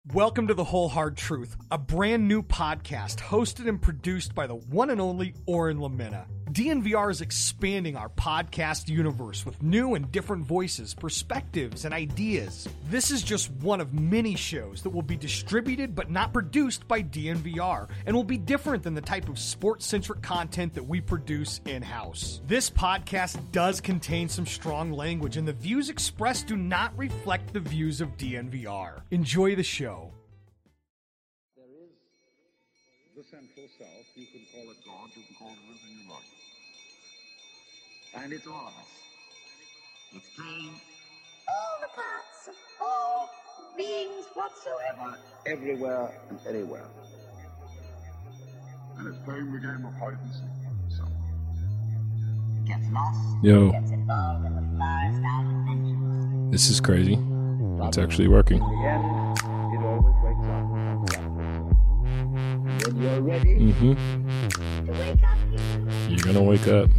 Welcome to The Whole Hard Truth, a brand new podcast hosted and produced by the one and only Oren Lamena. DNVR is expanding our podcast universe with new and different voices, perspectives, and ideas. This is just one of many shows that will be distributed but not produced by DNVR and will be different than the type of sports-centric content that we produce in-house. This podcast does contain some strong language, and the views expressed do not reflect the views of DNVR. Enjoy the show. There is the Central South. You can call it God, you can call it anything you like. And it's all of us. It's playing all the parts of all beings whatsoever, everywhere and anywhere. And it's playing the game of hide and seek. So gets lost. Yo, Gets involved in the far out adventures. this is crazy. It's actually working. In the end, it always wakes up. And when you're ready to wake up, You're gonna wake up.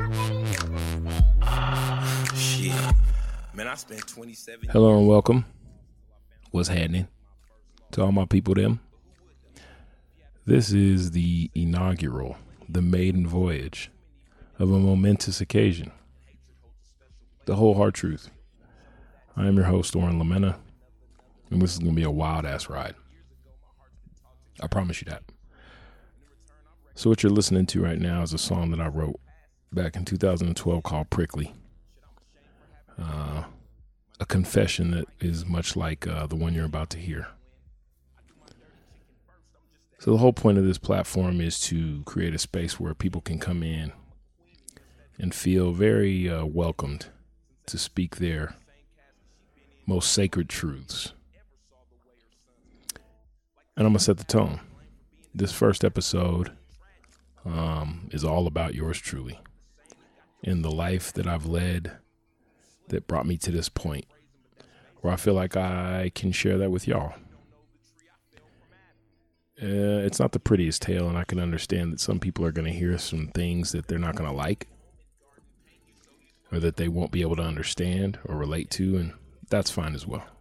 Shit. Man, I spent 27 Hello and welcome. What's happening to all my people them? This is the inaugural, the maiden voyage of a momentous occasion. The Whole Hard Truth. I am your host, Oren Lamena, and this is going to be a wild-ass ride. I promise you that. So what you're listening to right now is a song that I wrote back in 2012 called Prickly. A confession that is much like the one you're about to hear. So the whole point of this platform is to create a space where people can come in and feel very welcomed to speak their most sacred truths. And I'm going to set the tone. This first episode is all about yours truly and the life that I've led that brought me to this point where I feel like I can share that with y'all. It's not the prettiest tale, and I can understand that some people are going to hear some things that they're not going to like or that they won't be able to understand or relate to, and that's fine as well.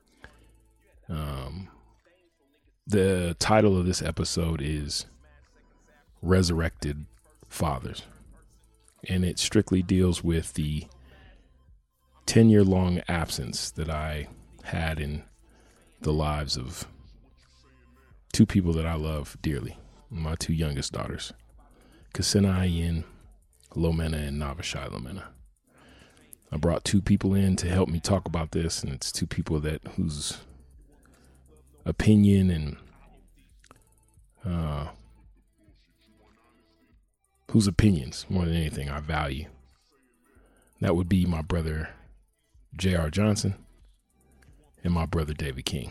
The title of this episode is Resurrected Fathers, and it strictly deals with the 10-year-long absence that I had in the lives of two people that I love dearly, my two youngest daughters, Ksenia Ayin Lomena and Navashai Lomena. I brought two people in to help me talk about this, and it's two people that whose opinion and whose opinions more than anything I value. That would be my brother J.R. Johnson and my brother David King.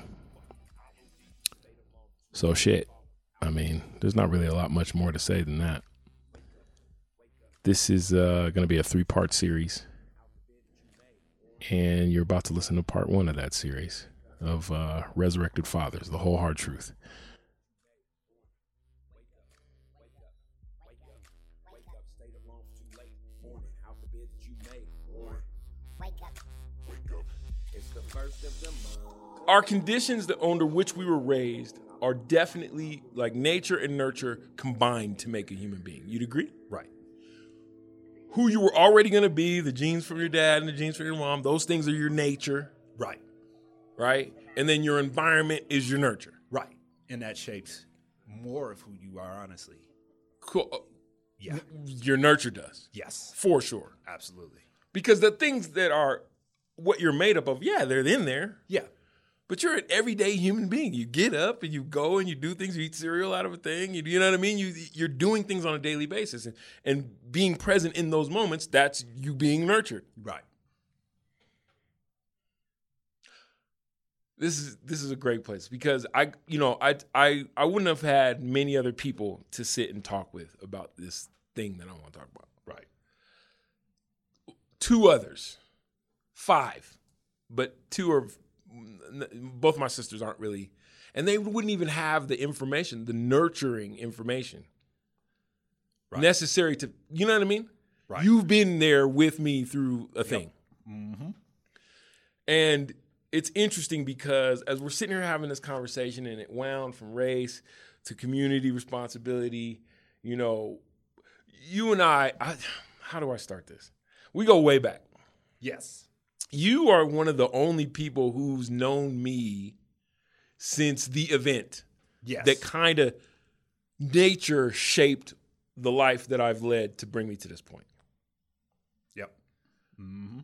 So shit, I mean, there's not really a lot much more to say than that. This is going to be a 3-part series, and you're about to listen to part 1 of that series of Resurrected Fathers, The Whole Hard Truth. Our conditions that under which we were raised are definitely like nature and nurture combined to make a human being. You'd agree? Right. Who you were already going to be, the genes from your dad and the genes from your mom, those things are your nature. Right. Right? And then your environment is your nurture. Right. And that shapes more of who you are, honestly. Cool. Yeah. Your nurture does. Yes. For sure. Absolutely. Because the things that are what you're made up of, yeah, they're in there. Yeah. But you're an everyday human being. You get up and you go and you do things. You eat cereal out of a thing. You know what I mean? You're doing things on a daily basis. And being present in those moments, that's you being nurtured. Right. This is a great place because I wouldn't have had many other people to sit and talk with about this thing that I want to talk about. Right. 2 others. 5. But 2 are... Both my sisters aren't really, and they wouldn't even have the information, the nurturing information necessary to, you know what I mean? Right. You've been there with me through a thing. Mm-hmm. And it's interesting because as we're sitting here having this conversation and it wound from race to community responsibility, you know, you and I how do I start this? We go way back. Yes. You are one of the only people who's known me since the event. Yes. That kind of nature shaped the life that I've led to bring me to this point. Yep. Mm-hmm.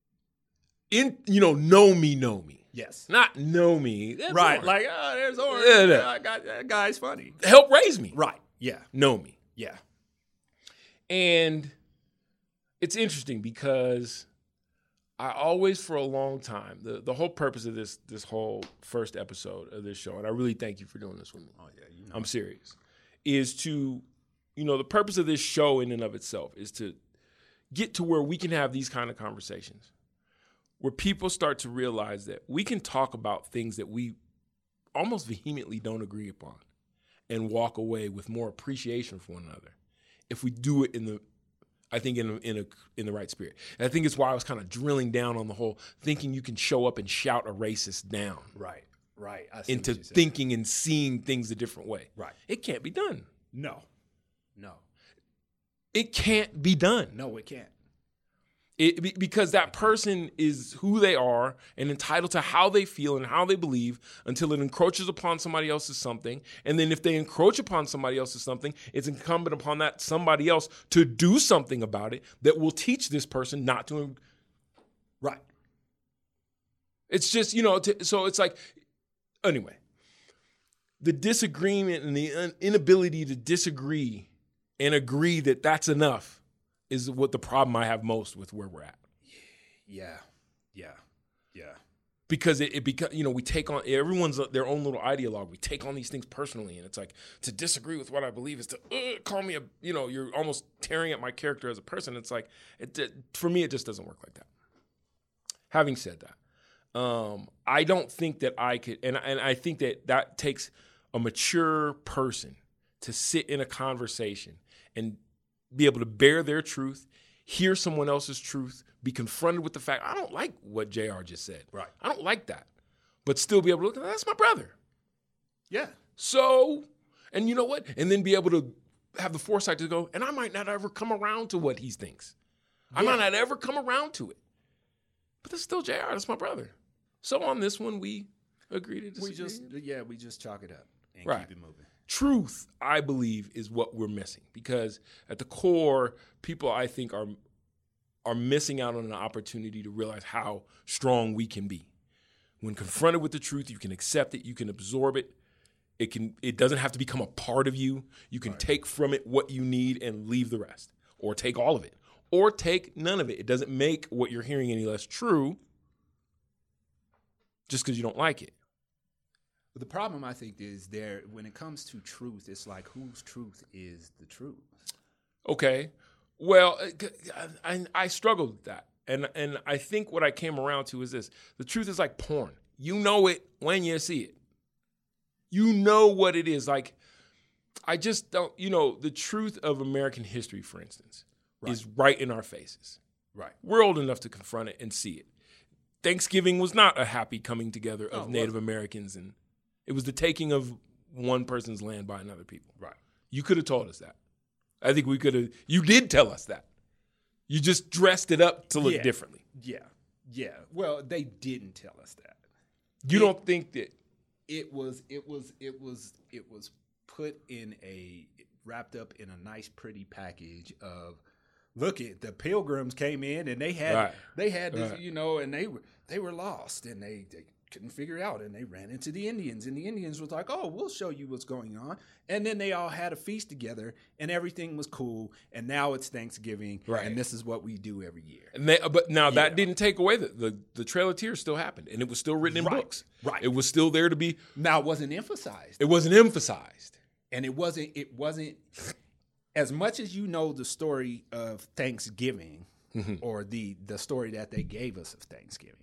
Know me. Yes. Not know me. That's Right. Orange. Like, oh, there's Orange. Yeah. I got that guy's funny. Help raise me. Right. Yeah. Know me. Yeah. And it's interesting because I always, for a long time, the whole purpose of this whole first episode of this show, and I really thank you for doing this with me. Oh, yeah. You know. I'm serious, is to, the purpose of this show in and of itself is to get to where we can have these kind of conversations where people start to realize that we can talk about things that we almost vehemently don't agree upon and walk away with more appreciation for one another if we do it in the right spirit. And I think it's why I was kind of drilling down on the whole thinking you can show up and shout a racist down. Right. I see Into what you said. thinking and seeing things a different way. Right. It can't be done. No. It can't be done. No, it can't. Because that person is who they are and entitled to how they feel and how they believe until it encroaches upon somebody else's something. And then if they encroach upon somebody else's something, it's incumbent upon that somebody else to do something about it that will teach this person not to. Right. It's just, so it's like, anyway, the disagreement and the inability to disagree and agree that that's enough is what the problem I have most with where we're at. Yeah. Because we take on, everyone's their own little ideologue. We take on these things personally, and it's like to disagree with what I believe is to call me you're almost tearing at my character as a person. It's like, for me, it just doesn't work like that. Having said that, I don't think that I could, and I think that takes a mature person to sit in a conversation and be able to bear their truth, hear someone else's truth, be confronted with the fact, I don't like what JR just said. Right. I don't like that. But still be able to look, that's my brother. Yeah. So, and you know what? And then be able to have the foresight to go, and I might not ever come around to what he thinks. Yeah. I might not ever come around to it. But that's still JR. That's my brother. So on this one, we agree to disagree. We just chalk it up and keep it moving. Truth, I believe, is what we're missing because at the core, people I think are missing out on an opportunity to realize how strong we can be. When confronted with the truth, you can accept it, you can absorb it. It doesn't have to become a part of you. You can take from it what you need and leave the rest, or take all of it, or take none of it. It doesn't make what you're hearing any less true just because you don't like it. The problem, I think, is when it comes to truth, it's like whose truth is the truth? Okay. Well, I struggled with that. And I think what I came around to is this. The truth is like porn. You know it when you see it. You know what it is. Like, I just don't, the truth of American history, for instance, is right in our faces. Right. We're old enough to confront it and see it. Thanksgiving was not a happy coming together of Native Americans, and it was the taking of one person's land by another people. Right. You could have told us that. I think we could have. You did tell us that. You just dressed it up to look differently. Yeah. Well, they didn't tell us that. You don't think that it was put in wrapped up in a nice, pretty package of. Look at the Pilgrims came in and they had this, and they were lost and they couldn't figure it out and they ran into the Indians and the Indians was like, oh, we'll show you what's going on. And then they all had a feast together and everything was cool. And now it's Thanksgiving and this is what we do every year. And that didn't take away the Trail of Tears still happened and it was still written in books. Right. It was still there to be. Now it wasn't emphasized. It wasn't emphasized. And it wasn't as much as you know the story of Thanksgiving or the story that they gave us of Thanksgiving.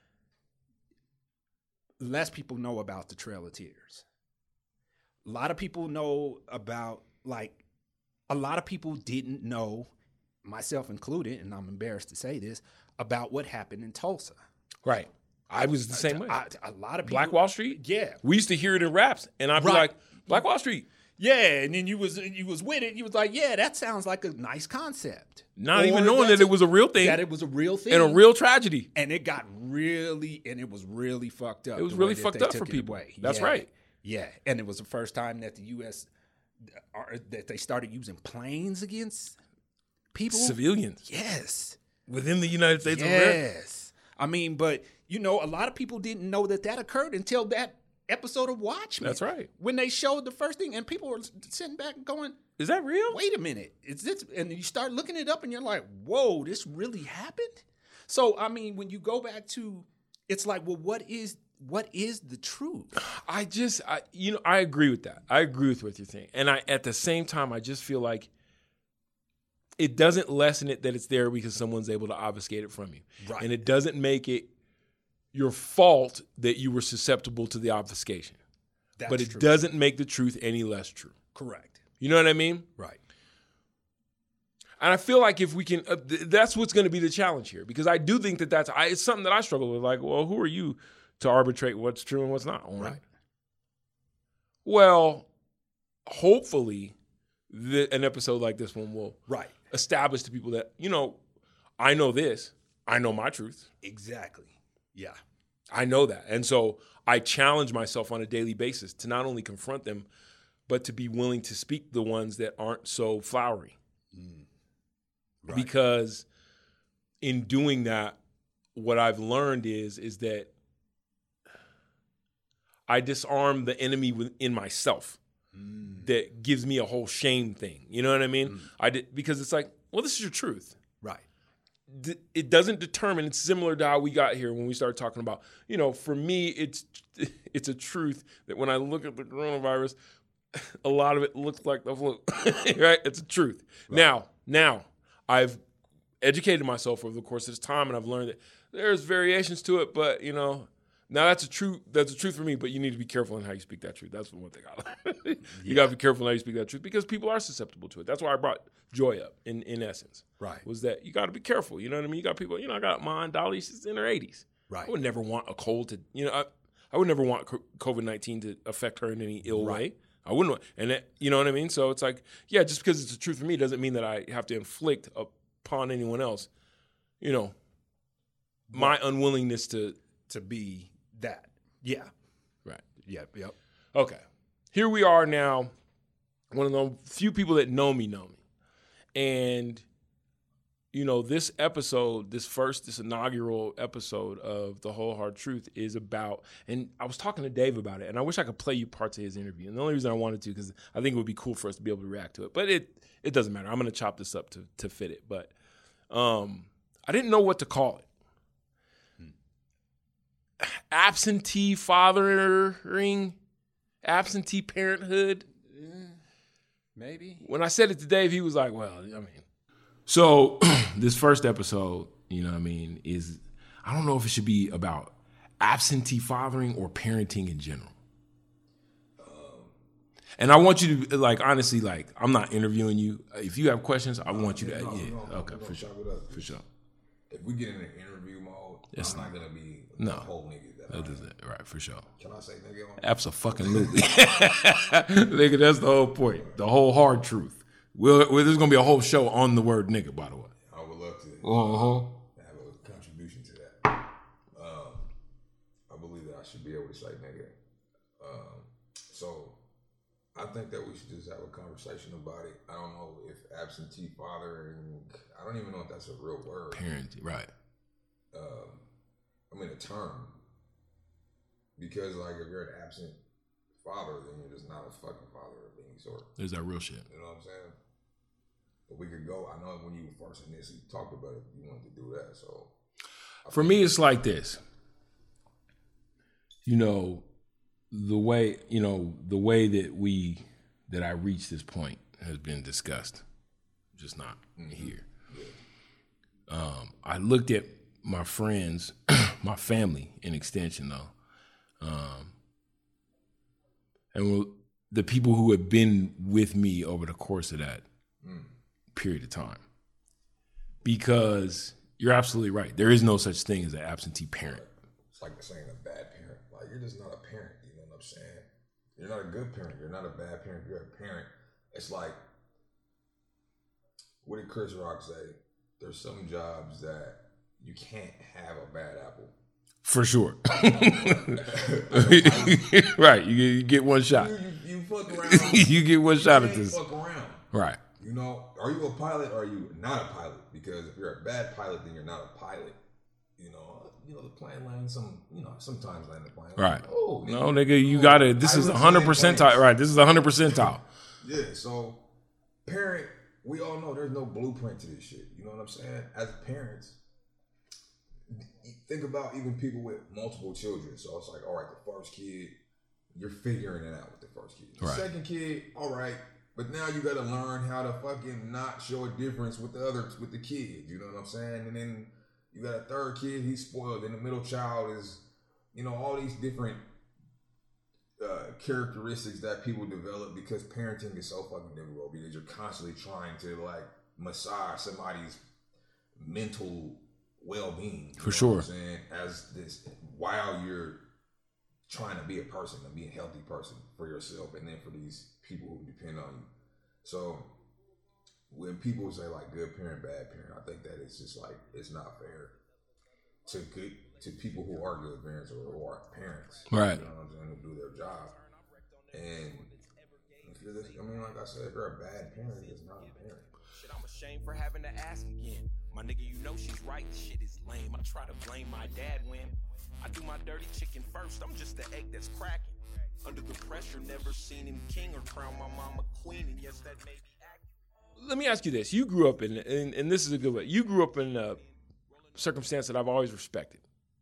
Less people know about the Trail of Tears. A lot of people know about, a lot of people didn't know, myself included, and I'm embarrassed to say this, about what happened in Tulsa. Right. I was the same way. A lot of people. Black Wall Street? Yeah. We used to hear it in raps, and I'd be like, Black Wall Street. Yeah, and then you was with it. You was like, yeah, that sounds like a nice concept. Not even knowing that it was a real thing. That it was a real thing. And a real tragedy. And it got it was really fucked up. It was really fucked up for people. That's right. Yeah, and it was the first time that the U.S., that they started using planes against people. Civilians. Yes. Within the United States of America. Yes. I mean, but, a lot of people didn't know that occurred until that episode of Watchmen. That's right. When they showed the first thing, and people were sitting back and going, is that real? Wait a minute. Is this? And you start looking it up and you're like, whoa, this really happened? So, I mean, when you go back to, it's like, well, what is the truth? I agree with that. I agree with what you're saying. And at the same time, I just feel like it doesn't lessen it that it's there because someone's able to obfuscate it from you. Right. And it doesn't make it your fault that you were susceptible to the obfuscation. But it doesn't make the truth any less true. Correct. You know what I mean? Right. And I feel like if we can, that's what's going to be the challenge here. Because I do think that it's something that I struggle with. Like, well, who are you to arbitrate what's true and what's not? Right. Well, hopefully an episode like this one will establish to people that, I know this. I know my truth. Exactly. Yeah. I know that. And so I challenge myself on a daily basis to not only confront them, but to be willing to speak the ones that aren't so flowery. Right. Because in doing that, what I've learned is that I disarm the enemy within myself that gives me a whole shame thing. You know what I mean? Because it's like, well, this is your truth. Right. It doesn't determine. It's similar to how we got here when we started talking about, for me, it's a truth that when I look at the coronavirus, a lot of it looks like the flu, right? It's a truth. Right. Now I've educated myself over the course of this time, and I've learned that there's variations to it, but now that's a truth for me, but you need to be careful in how you speak that truth. That's one thing I learned. You got to be careful in how you speak that truth because people are susceptible to it. That's why I brought Joy up in essence. Right. Was that you got to be careful. You know what I mean? You got people, I got my Aunt Dolly, she's in her 80s. Right. I would never want a cold to, I would never want COVID-19 to affect her in any ill way. I wouldn't want, and that, you know what I mean? So it's like, yeah, just because it's a truth for me doesn't mean that I have to inflict upon anyone else, my unwillingness to be that. Yeah. Right. Yep. Okay. Here we are now. One of the few people that know me. And, this episode, this inaugural episode of The Whole Hard Truth is about, and I was talking to Dave about it, and I wish I could play you parts of his interview. And the only reason I wanted to, because I think it would be cool for us to be able to react to it. But it doesn't matter. I'm going to chop this up to fit it. But I didn't know what to call it. Absentee fathering, absentee parenthood. Maybe. When I said it to Dave, he was like, well, So this first episode, is, I don't know if it should be about absentee fathering or parenting in general. And I want you to, honestly, I'm not interviewing you. If you have questions, I want you to, okay, for sure. For sure. If we get in an interview mode, I'm not going to be the whole nigga. Right, for sure. Can I say nigga? Absolutely. Nigga, that's the whole point. The whole hard truth. There's going to be a whole show on the word nigga, by the way. I would love to have a contribution to that. I believe that I should be able to say nigga. So I think that we should just have a conversation about it. I don't know if absentee fathering, I don't even know if that's a real word. Parenting, right. A term. Because, if you're an absent father, then you're just not a fucking father of any sort. There's that real shit. You know what I'm saying? But we could go, I know when you were first initially talked about it, you wanted to do that, so. For me, it's like this. The way that I reached this point has been discussed, just not here. Yeah. I looked at my friends, my family in extension though, and the people who have been with me over the course of that period of time. Because you're absolutely right. There is no such thing as an absentee parent. like saying a bad parent. Like, you're just not a parent. You know what I'm saying? You're not a good parent. You're not a bad parent. You're a parent. It's like, what did Chris Rock say? There's some jobs that you can't have a bad apple. For sure. Right. You get one shot. You fuck around. You get one shot at this. Fuck around. Right. You know, are you a pilot or are you not a pilot? Because if you're a bad pilot, then you're not a pilot. You know, the plane lands sometimes land the plane. Right. Like, oh, no, nigga, you got to, this is 100 percentile. Right. This is 100 percentile. Yeah. So, parent, we all know there's no blueprint to this shit. You know what I'm saying? As parents, think about even people with multiple children. So it's like, all right, the first kid, you're figuring it out with the first kid. The second kid, all right, but now you got to learn how to fucking not show a difference with the kid. You know what I'm saying? And then you got a third kid, he's spoiled. And the middle child is, all these different characteristics that people develop because parenting is so fucking difficult because you're constantly trying to like massage somebody's mental well-being. For sure. What I'm saying? As this, while you're trying to be a person and be a healthy person for yourself and then for these people who depend on you. So when people say like good parent, bad parent, I think that it's just like, it's not fair to people who are good parents or who are parents. Right. You know what I'm saying? Who do their job. And if you're like I said, if you're a bad parent, it's not a parent. Shit, I'm ashamed for having to ask again. My nigga, you know she's right. This shit is lame. I try to blame my dad when I do my dirty chicken first. I'm just the egg that's cracking. Under the pressure, never seen him king or crown my mama queen. And yes, that made me act. Let me ask you this. You grew up in, and this is a good way. You grew up in a circumstance that I've always respected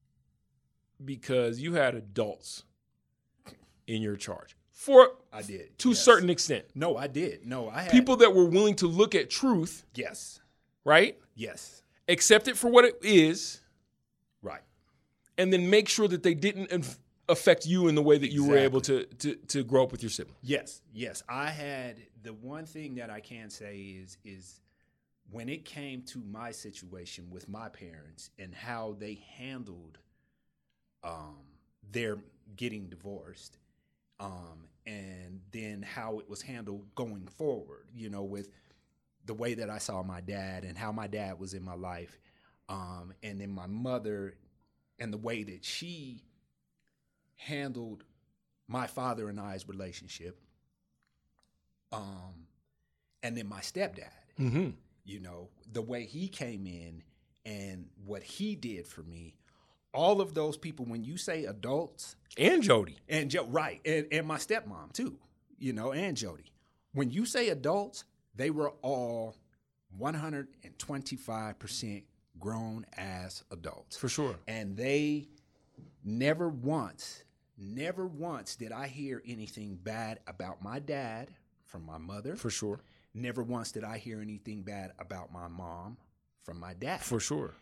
because you had adults in your charge. I did. To a certain extent. No, I did. No, I had. People that were willing to look at truth. Yes. Right? Yes. Accept it for what it is. Right. And then make sure that they didn't affect you in the way that you were able to grow up with your sibling. Yes. Yes. I had, the one thing that I can say is when it came to my situation with my parents and how they handled their getting divorced, and then how it was handled going forward, with the way that I saw my dad and how my dad was in my life, and then my mother and the way that she handled my father and I's relationship, and then my stepdad, the way he came in and what he did for me. All of those people, when you say adults, and Jody, right, and my stepmom too, and Jody. When you say adults, they were all 125% grown ass adults. For sure. And they never once did I hear anything bad about my dad from my mother. For sure. Never once did I hear anything bad about my mom from my dad. For sure.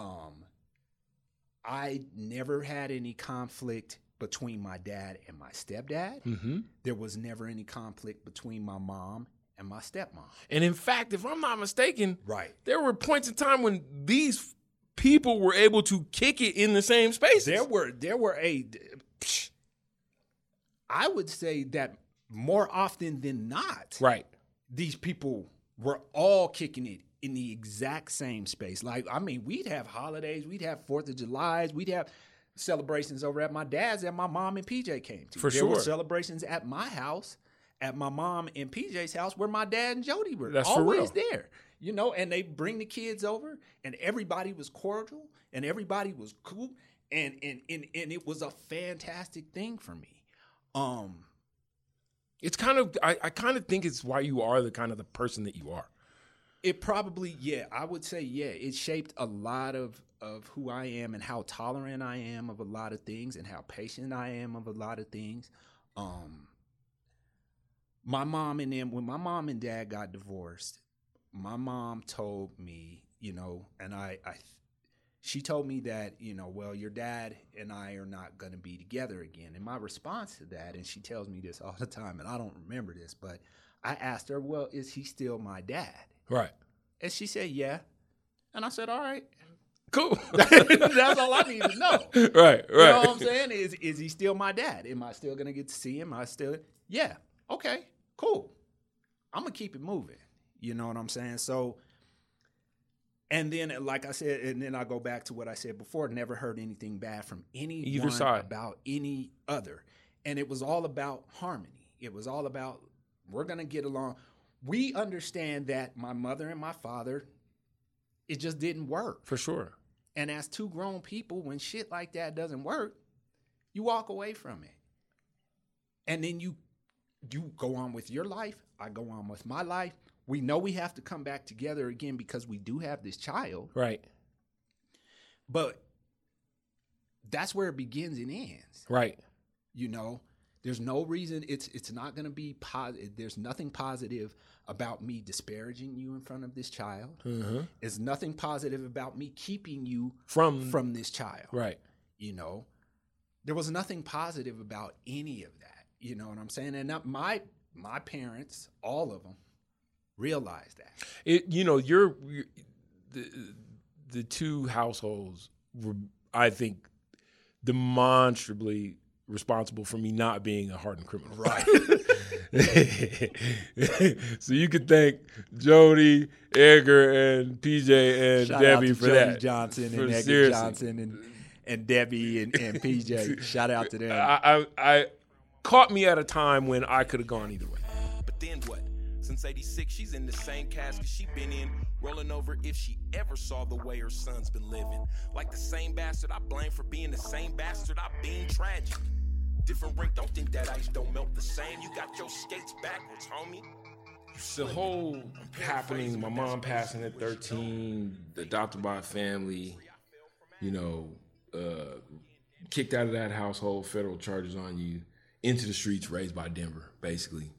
I never had any conflict between my dad and my stepdad. Mm-hmm. There was never any conflict between my mom and my stepmom. And in fact, if I'm not mistaken, right, there were points in time when these people were able to kick it in the same spaces. There were I would say that more often than not, right, these people were all kicking it in the exact same space. Like, I mean, we'd have holidays, we'd have 4th of July's, we'd have celebrations over at my dad's that my mom and PJ came to. For there sure. were celebrations at my house, at my mom and PJ's house, where my dad and Jody were. That's always for real. there. And they bring the kids over, and everybody was cordial, and everybody was cool, and it was a fantastic thing for me. It's kind of, I kind of think it's why you are the kind of the person that you are. It probably, I would say, it shaped a lot of who I am and how tolerant I am of a lot of things and how patient I am of a lot of things. My mom and them, when my mom and dad got divorced, my mom told me, and she told me that, well, your dad and I are not going to be together again. And my response to that, and she tells me this all the time, and I don't remember this, but I asked her, well, is he still my dad? Right. And she said, yeah. And I said, all right. Cool. That's all I need to know. Right. You know what I'm saying? Is he still my dad? Am I still gonna get to see him? Yeah. Okay. Cool. I'm gonna keep it moving. You know what I'm saying? So, and then, like I said, and then I go back to what I said before. Never heard anything bad from either side about any other, and it was all about harmony. It was all about we're gonna get along. We understand that my mother and my father, it just didn't work. For sure. And as two grown people, when shit like that doesn't work, you walk away from it. And then you go on with your life. I go on with my life. We know we have to come back together again because we do have this child. Right. But that's where it begins and ends. Right. You know, there's no reason it's not going to be positive. There's nothing positive about me disparaging you in front of this child. Mm-hmm. There's nothing positive about me keeping you from this child. Right. You know, there was nothing positive about any of that. You know what I'm saying? And my parents, all of them, realized that. The two households were, I think, demonstrably responsible for me not being a hardened criminal. Right. So you could thank Jody, Edgar, and PJ and Shout Debbie out to for Jody that. Johnson and Edgar seriously. Johnson and Debbie and PJ. Shout out to them. I caught me at a time when I could have gone either way. But then what? Since 86, she's in the same casket she been in, rolling over if she ever saw the way her son's been living. Like the same bastard I blame for being the same bastard I being tragic. Different rink, don't think that ice don't melt the same. You got your skates backwards, homie. The whole happening, my mom passing at 13, adopted by a family, kicked out of that household, federal charges on you, into the streets, raised by Denver, basically.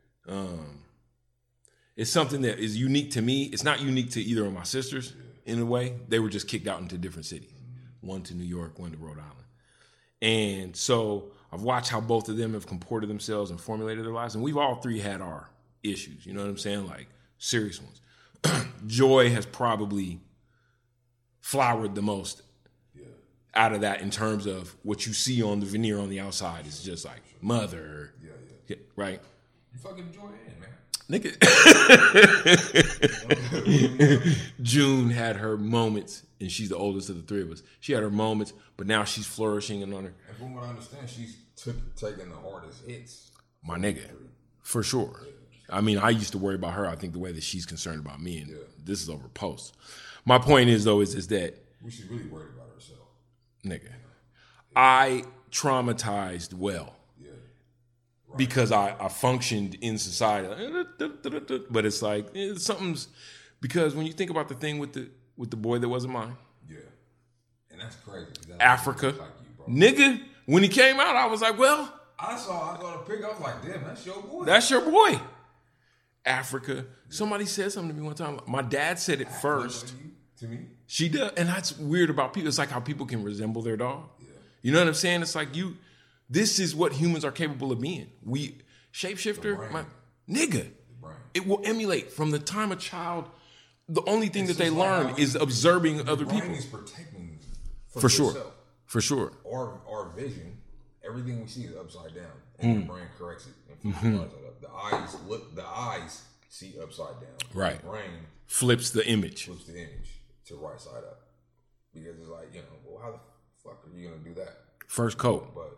It's something that is unique to me. It's not unique to either of my sisters in a way. They were just kicked out into different cities. One to New York, one to Rhode Island. And so I've watched how both of them have comported themselves and formulated their lives. And we've all three had our issues, you know what I'm saying? Like serious ones. Joy has probably flowered the most out of that in terms of what you see on the veneer on the outside is just like mother, right? You fucking Joy in, man. Nigga. June had her moments, and she's the oldest of the three of us. She had her moments, but now she's flourishing and on her. And from what I understand, she's taking the hardest hits. My nigga, for sure. I mean, I used to worry about her. I think the way that she's concerned about me, and this is over post. My point is though, is that we should really worry about herself, nigga. I traumatized well. Because I functioned in society, but it's like something's because when you think about the thing with the boy that wasn't mine, and that's crazy. Africa, like you, nigga. When he came out, I was like, well, I saw the pic. I was like, damn, that's your boy. That's your boy. Africa. Somebody said something to me one time. My dad said it first. To me, she does, and that's weird about people. It's like how people can resemble their dog. You know what I'm saying? It's like you. This is what humans are capable of being. We shapeshifter, my nigga. It will emulate from the time a child. The only thing that they learn is observing other people. Is protecting for sure, for sure. Our vision, everything we see is upside down, and the brain corrects it and flips it upside up. The eyes see upside down. Right. The brain flips the image to right side up because it's like well, how the fuck are you gonna do that? First coat, but.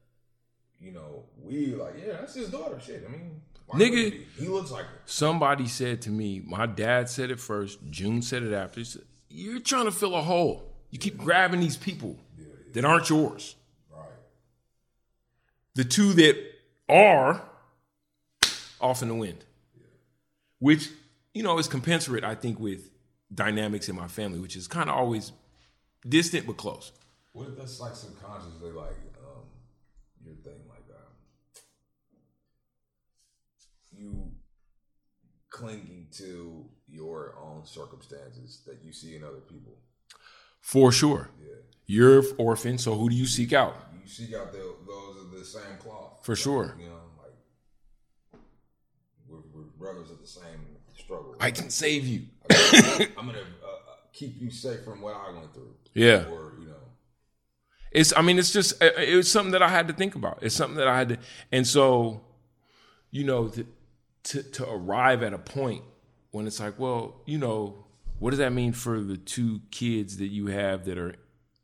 We like, that's his daughter. Shit, I mean, nigga, he looks like her. Somebody said to me, my dad said it first, June said it after. He said, you're trying to fill a hole. You keep grabbing these people that aren't yours. Right. The two that are off in the wind, which, is compensate, I think, with dynamics in my family, which is kind of always distant but close. What if that's like subconsciously like your thing, like you clinging to your own circumstances that you see in other people? For sure. Yeah. You're orphan, so who do you seek out? You seek out those of the same cloth. For sure. Like we're brothers of the same struggle. I can save you. I'm gonna keep you safe from what I went through. Yeah. Or, you know. It's something that I had to think about. It's something that I had to, and so, you know, to arrive at a point when it's like, well, you know, what does that mean for the two kids that you have that are,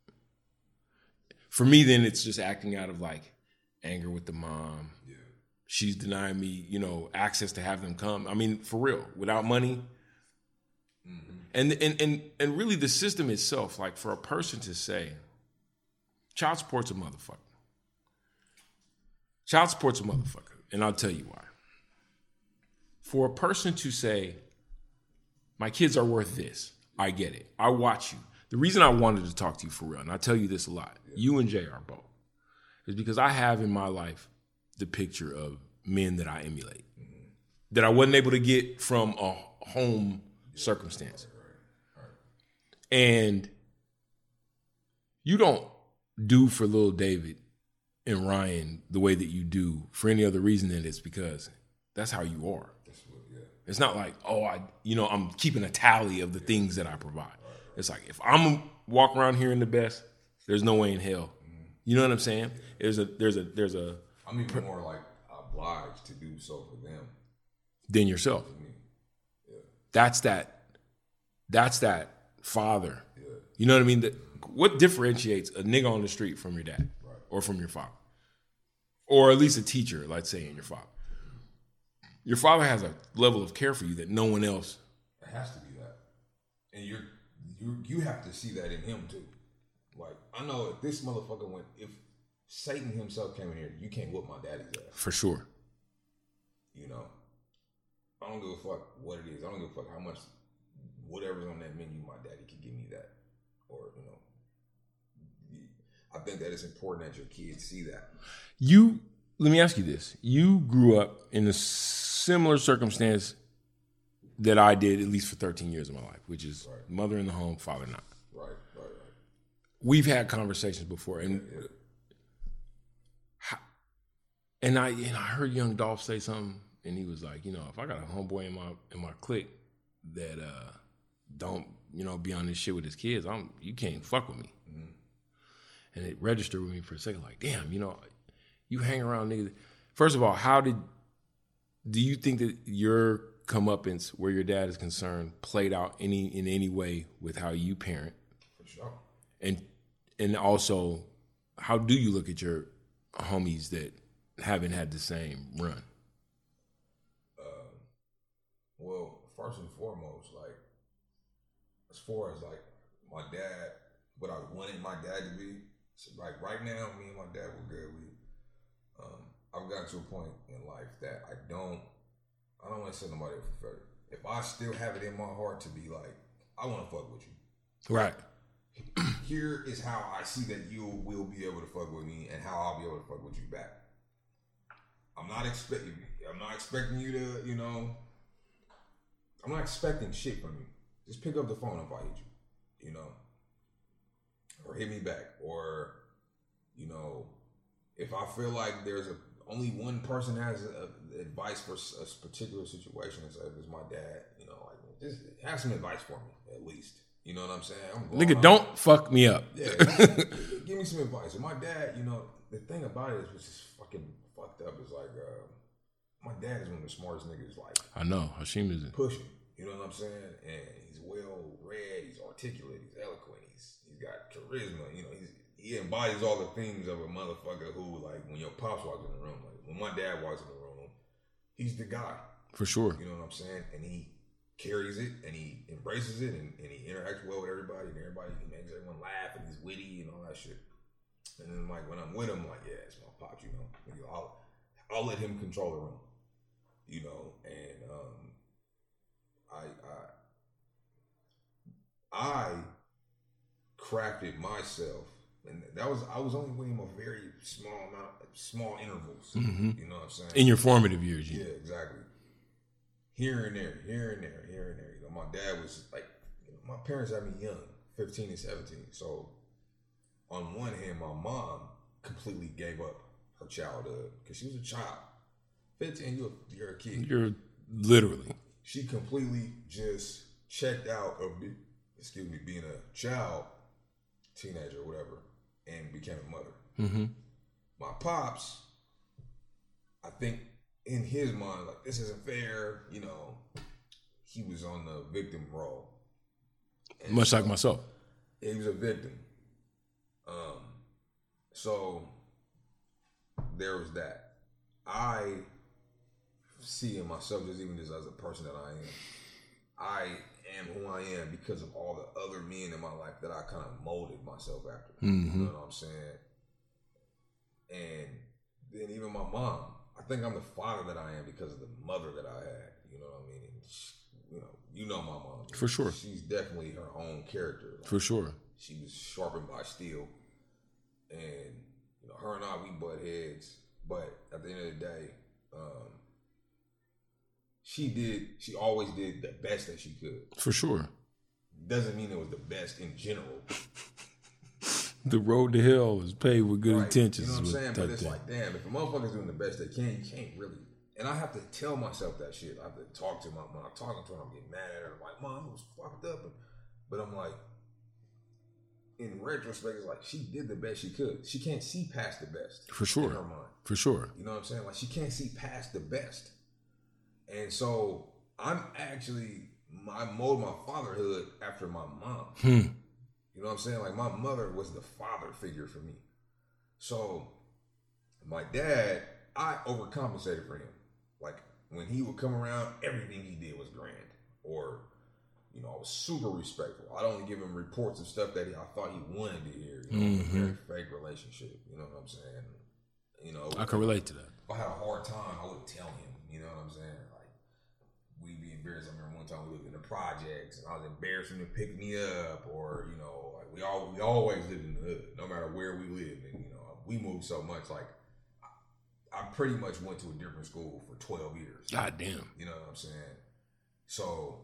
for me, then it's just acting out of like anger with the mom. Yeah. She's denying me, you know, access to have them come. I mean, for real, without money. Mm-hmm. And really the system itself, like for a person to say, child support's a motherfucker. Child support's a motherfucker. And I'll tell you why. For a person to say, my kids are worth this, I get it. I watch you. The reason I wanted to talk to you for real, and I tell you this a lot, you and JR both, is because I have in my life the picture of men that I emulate, that I wasn't able to get from a home circumstance. And you don't do for little David and Ryan the way that you do for any other reason than it's because that's how you are. It's not like, I'm keeping a tally of the things that I provide. It's like, if I'm walking around here in the best, there's no way in hell. You know what I'm saying? There's a. I'm even more like obliged to do so for them than yourself. Yeah. That's that father. Yeah. You know what I mean? What differentiates a nigga on the street from your dad or from your father? Or at least a teacher, let's say, and your father. Your father has a level of care for you that no one else. It has to be that. And you have to see that in him too. Like, I know if this motherfucker if Satan himself came in here, you can't whoop my daddy's ass. For sure. You know? I don't give a fuck what it is. I don't give a fuck how much, whatever's on that menu, my daddy can give me that. Or, you know. I think that it's important that your kids see that. Let me ask you this. You grew up in a similar circumstance that I did, at least for 13 years of my life, which is mother in the home, father not. Right. We've had conversations before, and I heard Young Dolph say something, and he was like, you know, if I got a homeboy in my clique that don't, you know, be on this shit with his kids, you can't fuck with me. Mm-hmm. And it registered with me for a second, like, damn, you know, you hang around niggas. First of all, do you think that your comeuppance, where your dad is concerned, played out in any way with how you parent? For sure. And also, how do you look at your homies that haven't had the same run? Well, first and foremost, like, as far as like my dad, what I wanted my dad to be, so like right now, me and my dad were good. I've gotten to a point in life that I don't want to set nobody up for failure. If I still have it in my heart to be like, I want to fuck with you. Right. Here is how I see that you will be able to fuck with me and how I'll be able to fuck with you back. I'm not expecting you to, you know, I'm not expecting shit from you. Just pick up the phone if I hit you, you know, or hit me back, or, you know, if I feel like there's only one person has advice for a particular situation, so if it's my dad, you know, like, just have some advice for me at least. You know what I'm saying? Nigga, don't fuck me up. Yeah, give me some advice. And my dad, you know, the thing about it is, which is fucking fucked up, is like, my dad is one of the smartest niggas. Like, I know Hashim is pushing. You know what I'm saying? And he's well read. He's articulate. He's eloquent. He's got charisma. You know, he embodies all the things of a motherfucker who, like, when your pops walks in the room, like when my dad walks in the room, he's the guy. For sure. You know what I'm saying? And he carries it and he embraces it and he interacts well with everybody and he makes everyone laugh and he's witty and all that shit. And then, like, when I'm with him, like, yeah, it's my pops, you know. I'll let him control the room, you know, and I crafted myself, and I was only with him a very small intervals. Mm-hmm. You know what I'm saying? In your formative years, yeah, exactly. Here and there. You know, my dad was like, you know, my parents had me young, 15 and 17. So on one hand, my mom completely gave up her childhood because she was a child. 15, you're a kid. You're literally. She completely just checked out of being a child, teenager, or whatever, and became a mother. Mm-hmm. My pops, I think in his mind, like, this isn't fair, you know, he was on the victim role. And much like myself. He was a victim. So there was that. I see in myself, just even just as a person that I am who I am because of all the other men in my life that I kind of molded myself after. Mm-hmm. You know what I'm saying? And then even my mom, I think I'm the father that I am because of the mother that I had. You know what I mean? And she, you know my mom. For sure. She's definitely her own character. Like, for sure. She was sharpened by steel. And, her and I, we butt heads. But at the end of the day, she always did the best that she could. For sure. Doesn't mean it was the best in general. The road to hell is paved with good intentions. You know what I'm saying? But it's like, damn, if a motherfucker's doing the best they can, you can't really. And I have to tell myself that shit. I have to talk to when I'm talking to her, I'm getting mad at her. I'm like, Mom, it was fucked up. But I'm like, in retrospect, it's like, she did the best she could. She can't see past the best. For sure. In her mind. For sure. You know what I'm saying? Like, she can't see past the best. And so, I mold my fatherhood after my mom. You know what I'm saying? Like, my mother was the father figure for me. So, my dad, I overcompensated for him. Like, when he would come around, everything he did was grand. Or, I was super respectful. I'd only give him reports of stuff that I thought he wanted to hear. A very fake relationship. You know what I'm saying? I can relate to that. If I had a hard time, I would tell him. You know what I'm saying? Like, we'd be embarrassed. I remember one time we lived in the projects, and I was embarrassed for him to pick me up, or like we always lived in the hood, no matter where we lived. And we moved so much. Like, I pretty much went to a different school for 12 years. God damn. You know what I'm saying? So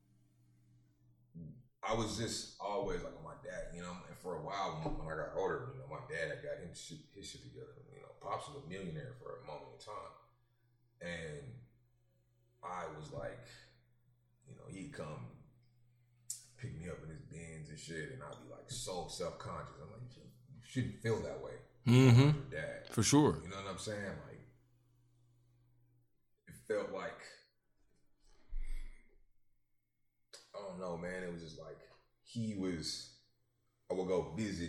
I was just always like on my dad, and for a while when I got older, my dad had got his shit together. Pops was a millionaire for a moment in time. And I was like, he'd come pick me up in his Benz and shit, and I'd be like so self-conscious. I'm like, you shouldn't feel that way. Mm-hmm. Your dad. For sure. You know what I'm saying? Like, it felt like, I don't know, man. It was just like, I would go visit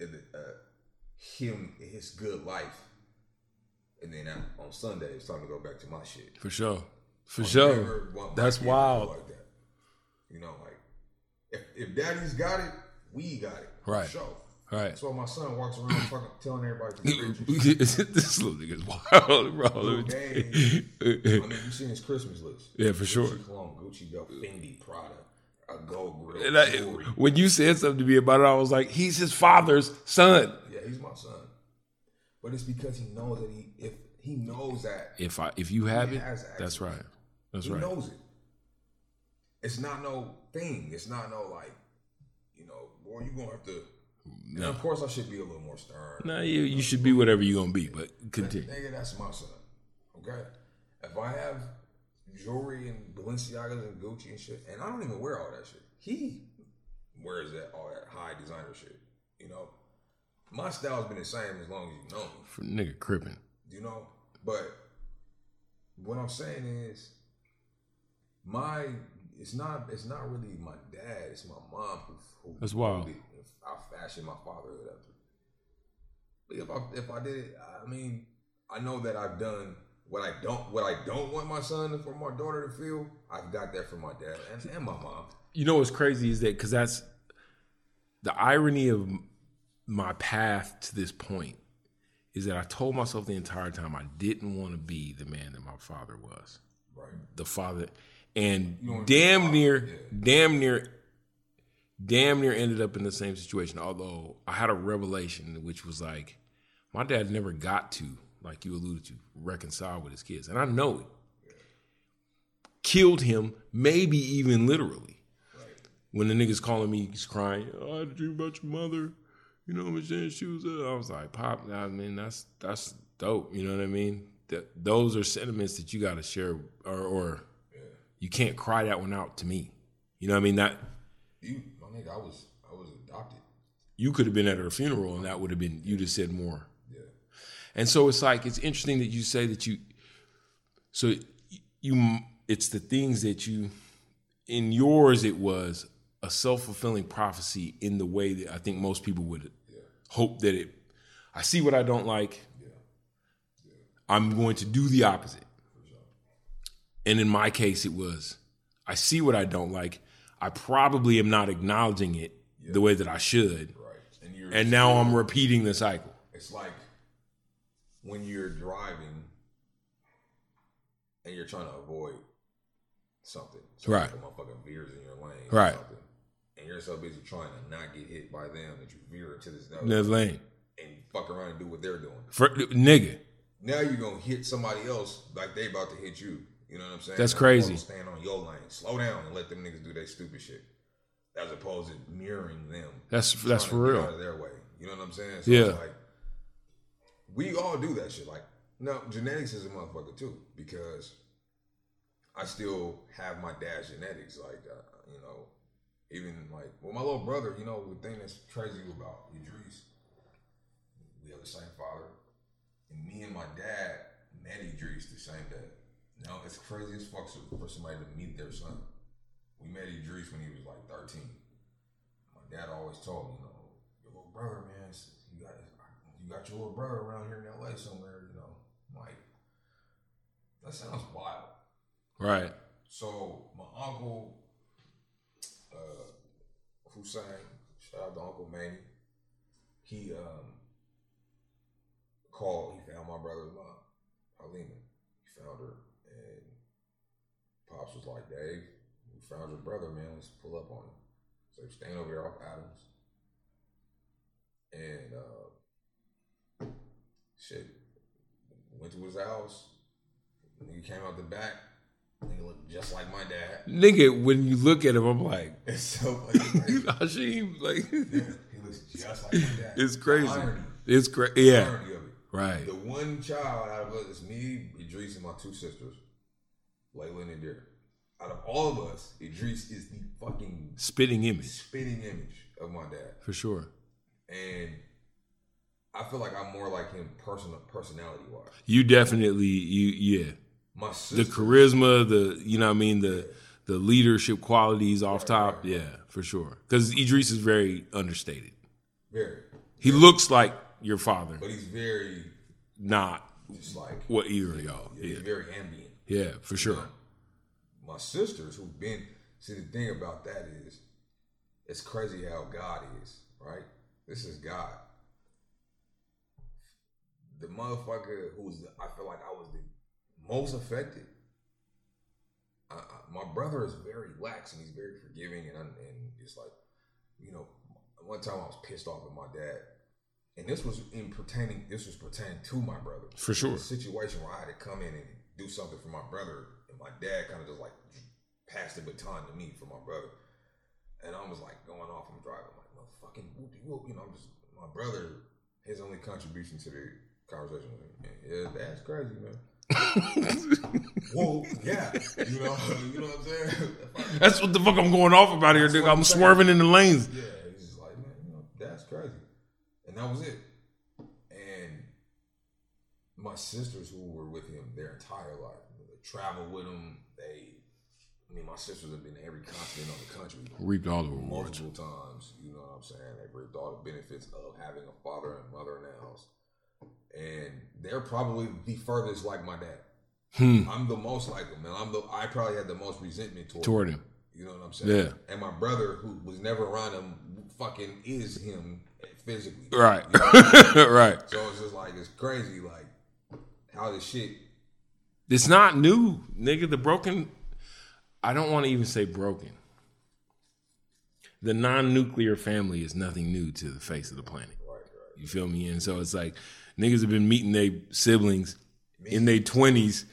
him in his good life. And then on Sunday, it's time to go back to my shit. For sure. For sure. That's wild. Like that. Like, if daddy's got it, we got it. Right. For sure. Right. That's why my son walks around fucking telling everybody to this little nigga's wild, bro. You seen his Christmas list. Yeah, for sure. Gucci cologne, Gucci belt, Fendi, Prada, a gold grill. When you said something to me about it, I was like, he's his father's son. Yeah, he's my son. But it's because he knows that he knows that if you have it, that's right. That's right. He knows it. It's not no thing. It's not no like, boy, you're gonna have to. No. And of course, I should be a little more stern. No, you should be whatever you're gonna be, but continue. Nigga, that's my son. Okay, if I have jewelry and Balenciagas and Gucci and shit, and I don't even wear all that shit. He wears all that high designer shit. My style's been the same as long as you know me. For nigga crippin'. But what I'm saying is, it's not really my dad. It's my mom who that's wild. I fashioned my fatherhood after. But if I did it, I mean, I know that I've done what I don't want my son for my daughter to feel. I've got that from my dad and my mom. You know what's crazy is that because that's the irony of my path to this point is that I told myself the entire time I didn't want to be the man that my father was. Right. The father, and damn near ended up in the same situation. Although I had a revelation, which was like, my dad never got to, like you alluded to, reconcile with his kids. And I know it. Yeah. Killed him, maybe even literally. Right. When the nigga's calling me, he's crying, I had a dream about your mother. You know what I'm saying? She was I was like, Pop, I mean, that's dope. You know what I mean? Those are sentiments that you got to share, or you can't cry that one out to me. You know what I mean? My My nigga, I was adopted. You could have been at her funeral, and that would have been, you'd have said more. Yeah. And so it's like, it's interesting that you say that it's the things that in yours, it was a self-fulfilling prophecy in the way that I think most people would hope that I see what I don't like. I'm going to do the opposite. And in my case, it was, I see what I don't like. I probably am not acknowledging it the way that I should. Right. And now I'm repeating the cycle. It's like when you're driving and you're trying to avoid something. So right. Like a motherfucker veers in your lane. Right. Or something, and you're so busy trying to not get hit by them that you veer into this other lane. And you fuck around and do what they're doing. Nigga. Now you're going to hit somebody else like they about to hit you. You know what I'm saying? That's crazy. Stand on your lane. Slow down and let them niggas do their stupid shit. As opposed to mirroring them. That's for real. Out of their way. You know what I'm saying? So yeah. It's like, we all do that shit. Like, no, genetics is a motherfucker too. Because I still have my dad's genetics. Like, you know, even like, well, my little brother, you know, the thing that's crazy about Idris, we have the same father. And me and my dad met Idris the same day. Now, it's crazy as fuck for somebody to meet their son. We met Idris when he was like 13. My dad always told me, you know, your little brother, man, you got your little brother around here in LA somewhere, you know. I'm like, that sounds wild. Right. So my uncle, Hussein, shout out to Uncle Manny, he found my brother's mom, Halima. He found her, and Pops was like, Dave, we found your brother, man, let's pull up on him. So he's staying over there off Adams. And shit, went to his house. Nigga came out the back. Nigga looked just like my dad. Nigga, when you look at him, I'm like, it's so funny. Hashim, like, yeah, he looks just like my dad. It's crazy. Irony. It's crazy. Yeah. Irony of it. Right. The one child out of us is me, Idris, and my two sisters, Layla and Indira. Out of all of us, Idris is the fucking spitting image of my dad. For sure. And I feel like I'm more like him personality wise. You definitely, yeah. My sister, the charisma, you know what I mean, the leadership qualities off top, yeah, for sure. Because Idris is very understated. Very. He looks like your father, but he's very not just like what either of y'all. Yeah, he's very ambient. Yeah, for sure. You know, my sisters who've been, see, the thing about that is, it's crazy how God is, right? This is God. The motherfucker I feel like I was the most affected. My brother is very lax and he's very forgiving, and it's like, you know, one time I was pissed off at my dad, and this was pertaining to my brother. For sure. A situation where I had to come in and do something for my brother, and my dad kind of just like passed the baton to me for my brother, and I was like going off. I'm driving, like motherfucking whoopie whoop, you know. I'm just my brother. His only contribution to the conversation with him, yeah, that's crazy, man. Whoa, yeah, you know what I'm saying? That's what the fuck I'm going off about here, nigga. I'm swerving in the lanes. Yeah, he's just like, man, you know, that's crazy, and that was it. And my sisters who were with him their entire life, they traveled with him. My sisters have been to every continent on the country, reaped all the rewards multiple times. You know what I'm saying? They've reaped all the benefits of having a father and mother in the house. And they're probably the furthest like my dad. I'm the most like him, and I probably had the most resentment toward him. You know what I'm saying? Yeah. And my brother, who was never around him, fucking is him physically. Right. You know right. So it's just like, it's crazy, like how this shit. It's not new, nigga. The broken. I don't want to even say broken. The non-nuclear family is nothing new to the face of the planet. Right. You feel me? And so it's like niggas have been meeting their siblings in their 20s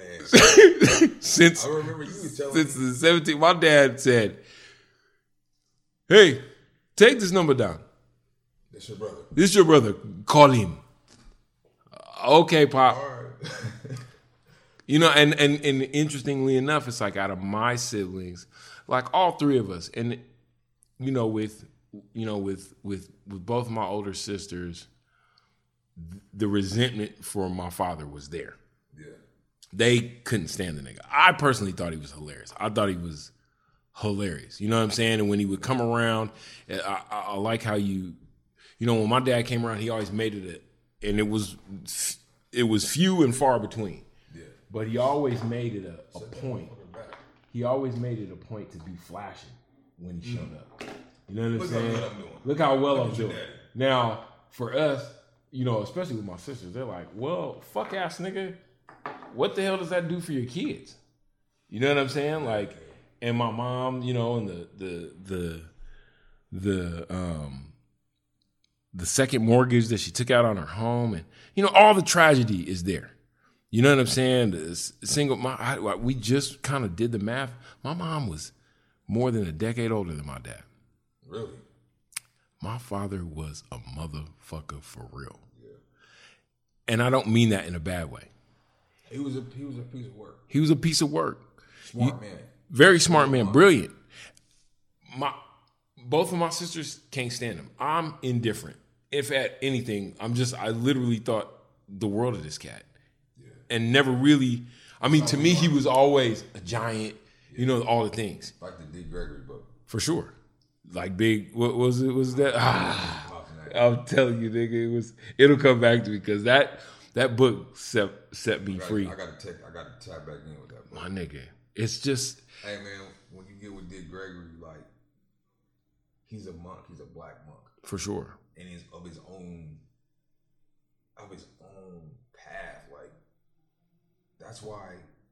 since I remember you was telling since the 17th. My dad said, "Hey, take this number down. That's your brother. This is your brother. Call him." Okay, Pop. All right. You know, and interestingly enough, it's like out of my siblings, like all three of us, and with both my older sisters, the resentment for my father was there. Yeah. They couldn't stand the nigga. I personally thought he was hilarious. I thought he was hilarious. You know what I'm saying? And when he would come around, I like how when my dad came around, he always made it and it was few and far between. Yeah. But he always made it a point. He always made it a point to be flashing when he showed up. You know what I'm saying? Look how well I'm doing. Now, for us, especially with my sisters, they're like, well, fuck ass nigga, what the hell does that do for your kids? You know what I'm saying? Like, and my mom, and the second mortgage that she took out on her home, and all the tragedy is there. You know what I'm saying? We just kind of did the math. My mom was more than a decade older than my dad. Really? My father was a motherfucker for real. Yeah. And I don't mean that in a bad way. He was a piece of work. He was a piece of work. Smart man. Very smart man. Brilliant. Both of my sisters can't stand him. I'm indifferent. If at anything, I literally thought the world of this cat. Yeah. And never really, to me, he was always a giant, all the things. Like the Dick Gregory book. For sure. Like big, what was it? Was that? I'm telling you, nigga, it'll come back to me because that book set me free. I got to tap back in with that book. My nigga, it's just. Hey man, when you get with Dick Gregory, like he's a monk, he's a black monk for sure, and he's of his own path. Like that's why,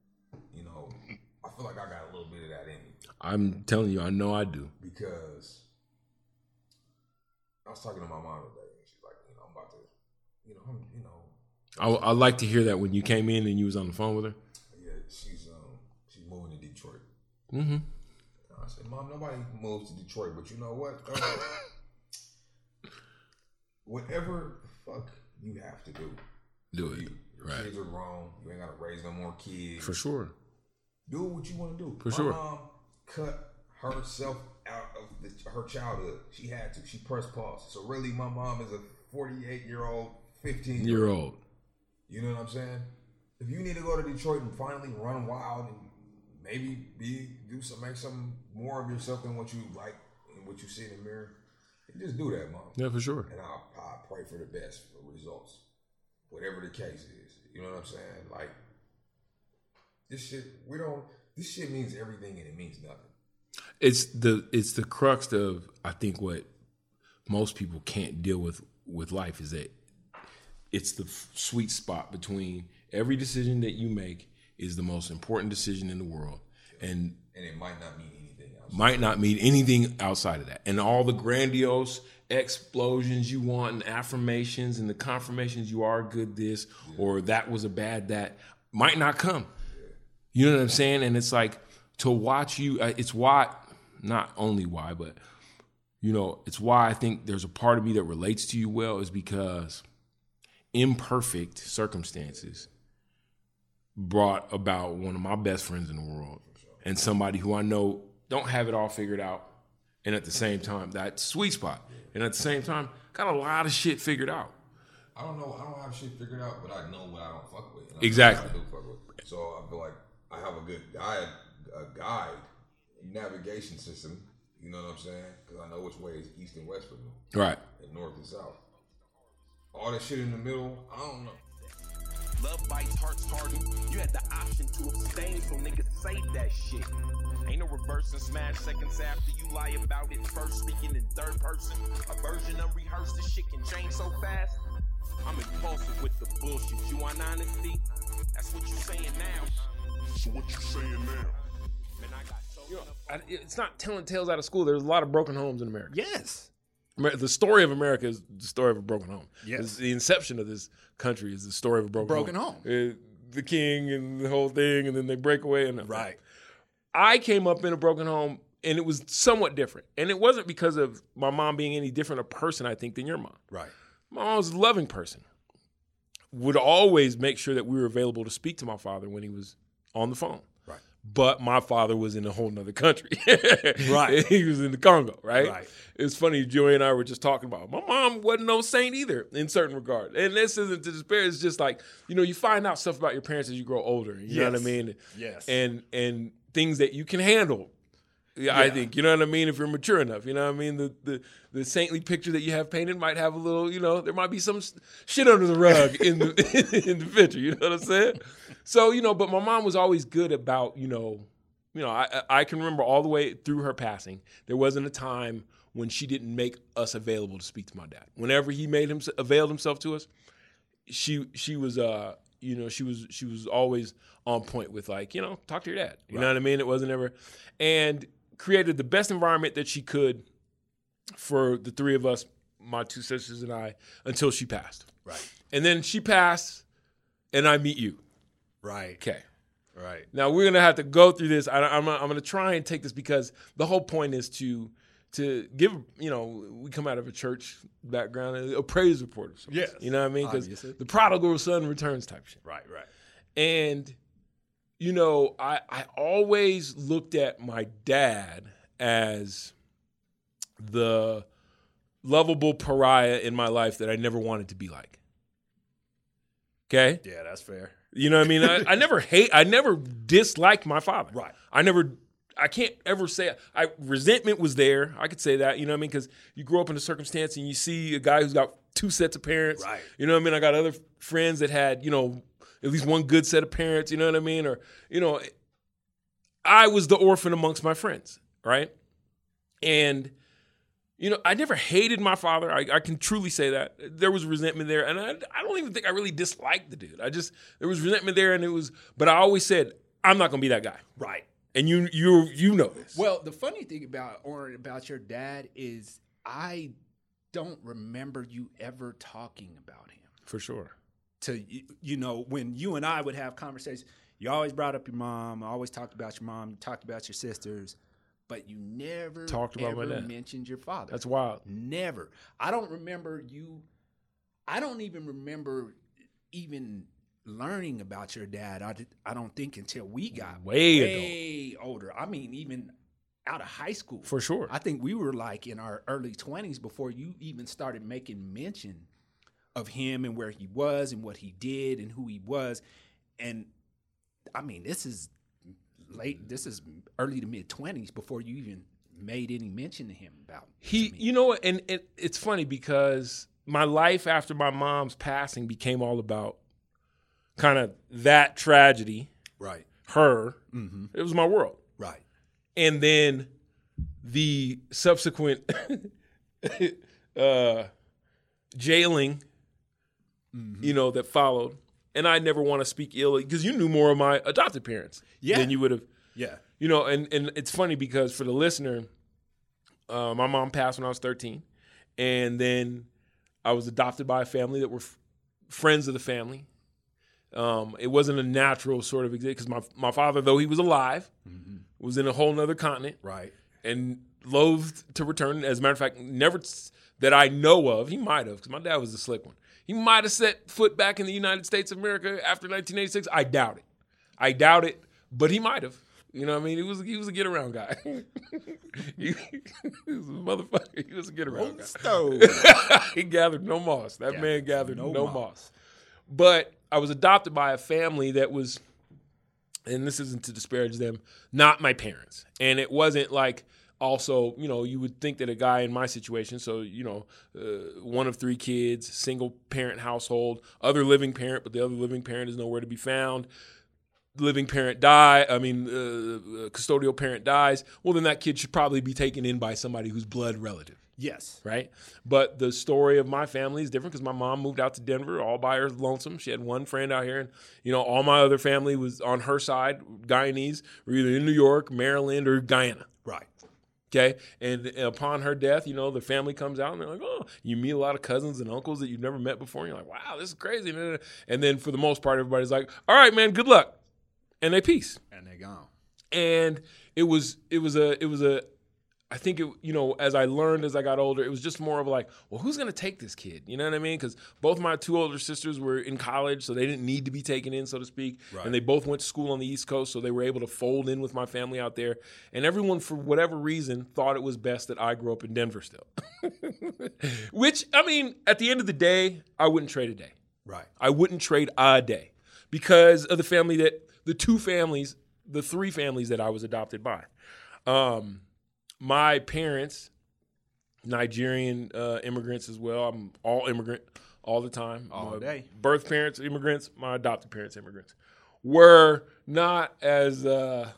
I feel like I got a little bit of that in me. I'm telling you, I know I do. Because I was talking to my mom today, and she's like, I'm about to, I like to hear that when you came in and you was on the phone with her. Yeah, she's moving to Detroit. Mm-hmm. I said, Mom, nobody moves to Detroit, but you know what? Whatever the fuck you have to do. Do it. Your right. kids are grown. You ain't got to raise no more kids. For sure. Do what you want to do. For sure. My mom cut herself out of her childhood. She had to. She pressed pause. So really, my mom is a 48-year-old, 15-year-old. You know what I'm saying? If you need to go to Detroit and finally run wild and maybe make some more of yourself than what you like and what you see in the mirror, just do that, Mom. Yeah, for sure. And I'll pray for the best for results, whatever the case is. You know what I'm saying? Like this shit means everything and it means nothing. It's the crux of, I think, what most people can't deal with life is that it's the sweet spot between every decision that you make is the most important decision in the world. And it might not mean anything else. Might not mean anything outside of that. And all the grandiose explosions you want and affirmations and the confirmations you are good this or that was a bad that might not come. You know what I'm saying? And it's like to watch you, it's why, not only why, but it's why I think there's a part of me that relates to you well is because imperfect circumstances brought about one of my best friends in the world and somebody who I know don't have it all figured out. And at the same time, that sweet spot. And at the same time, got a lot of shit figured out. I don't have shit figured out, but I know what I don't fuck with. Exactly. I do fuck with. So I feel like I have a guide, navigation system. You know what I'm saying? Because I know which way is east and west for me. Right. And north and south. All that shit in the middle, I don't know. Love bites, hearts harden. You had the option to abstain, so niggas save that shit. Ain't no reverse and smash seconds after you lie about it first, speaking in third person. A version unrehearsed, this shit can change so fast. I'm impulsive with the bullshit. You want honesty? That's what you saying now. So what you saying now? Man, I got so it's not telling tales out of school. There's a lot of broken homes in America. Yes. The story of America is the story of a broken home. Yes. The inception of this country is the story of a broken home. The king and the whole thing, and then they break away. Right. I came up in a broken home, and it was somewhat different. And it wasn't because of my mom being any different a person, I think, than your mom. Right. My mom was a loving person. Would always make sure that we were available to speak to my father when he was on the phone. Right. But my father was in a whole nother country. Right. He was in the Congo, right? Right. It's funny, Joey and I were just talking about, my mom wasn't no saint either in certain regard. And this isn't to despair. It's just like, you find out stuff about your parents as you grow older. You know what I mean? Yes. And things that you can handle. Yeah, I think, you know what I mean, if you're mature enough. You know what I mean? The saintly picture that you have painted might have a little, there might be some shit under the rug in the picture. You know what I'm saying? So, but my mom was always good about, I can remember all the way through her passing, there wasn't a time when she didn't make us available to speak to my dad. Whenever he availed himself to us, she was she was always on point with talk to your dad. You know what I mean? It wasn't ever, and created the best environment that she could for the three of us, my two sisters and I, until she passed. Right. And then she passed, and I meet you. Right. Okay. Right. Now we're gonna have to go through this. I'm gonna try and take this because the whole point is to give. We come out of a church background, a praise report of sorts. Yes. You know what I mean? Because the prodigal son returns type shit. Right. Right. And I always looked at my dad as the lovable pariah in my life that I never wanted to be like. Okay? Yeah, that's fair. You know what I mean? I never disliked my father. Right. I can't ever say, resentment was there. I could say that, you know what I mean? Because you grow up in a circumstance and you see a guy who's got two sets of parents. Right. You know what I mean? I got other friends that had, at least one good set of parents, you know what I mean? Or, I was the orphan amongst my friends, right? And, I never hated my father. I can truly say that. There was resentment there. And I don't even think I really disliked the dude. There was resentment there but I always said, I'm not going to be that guy. Right. And you know this. Well, the funny thing about your dad is I don't remember you ever talking about him. For sure. When you and I would have conversations, you always brought up your mom, always talked about your mom, you talked about your sisters, but you never talked about my dad. Mentioned your father. That's wild. Never. I don't even remember even learning about your dad. I don't think until we got way older. I mean, even out of high school. For sure. I think we were like in our early 20s before you even started making mention of him and where he was and what he did and who he was. And I mean, this is early to mid 20s before you even made any mention to him about and it's funny because my life after my mom's passing became all about kind of that tragedy. Right. Her. Mm-hmm. It was my world. Right. And then the subsequent jailing, that followed. And I never want to speak ill because you knew more of my adopted parents than you would have. Yeah. And it's funny because for the listener, my mom passed when I was 13. And then I was adopted by a family that were friends of the family. It wasn't a natural sort of because my father, though he was alive, was in a whole nother continent. Right. And loathed to return. As a matter of fact, never that I know of. He might have because my dad was the slick one. He might have set foot back in the United States of America after 1986. I doubt it, but he might have. You know what I mean? He was a get around guy. he was a motherfucker. He was a get around guy. He gathered no moss. That man gathered no moss. But I was adopted by a family that was, and this isn't to disparage them, not my parents. And it wasn't like also, you would think that a guy in my situation, so, one of three kids, single parent household, other living parent, but the other living parent is nowhere to be found. Living parent custodial parent dies. Well, then that kid should probably be taken in by somebody who's blood relative. Yes. Right? But the story of my family is different because my mom moved out to Denver all by her lonesome. She had one friend out here. And, all my other family was on her side, Guyanese, were either in New York, Maryland, or Guyana. Right. Okay? And upon her death, the family comes out and they're like, oh, you meet a lot of cousins and uncles that you've never met before. And you're like, wow, this is crazy. And then for the most part, everybody's like, all right, man, good luck. And they peace. And they gone. And it was a I think, as I learned as I got older, it was just more of like, well, who's going to take this kid? You know what I mean? Because both my 2 older sisters were in college, so they didn't need to be taken in, so to speak. Right. And they both went to school on the East Coast, so they were able to fold in with my family out there. And everyone, for whatever reason, thought it was best that I grew up in Denver still. Which, I mean, at the end of the day, I wouldn't trade a day. Right. I wouldn't trade a day because of the 3 families that I was adopted by. My parents, Nigerian immigrants as well. I'm all immigrant all the time. All day. Birth parents, immigrants. My adopted parents, immigrants. Were not as, Well,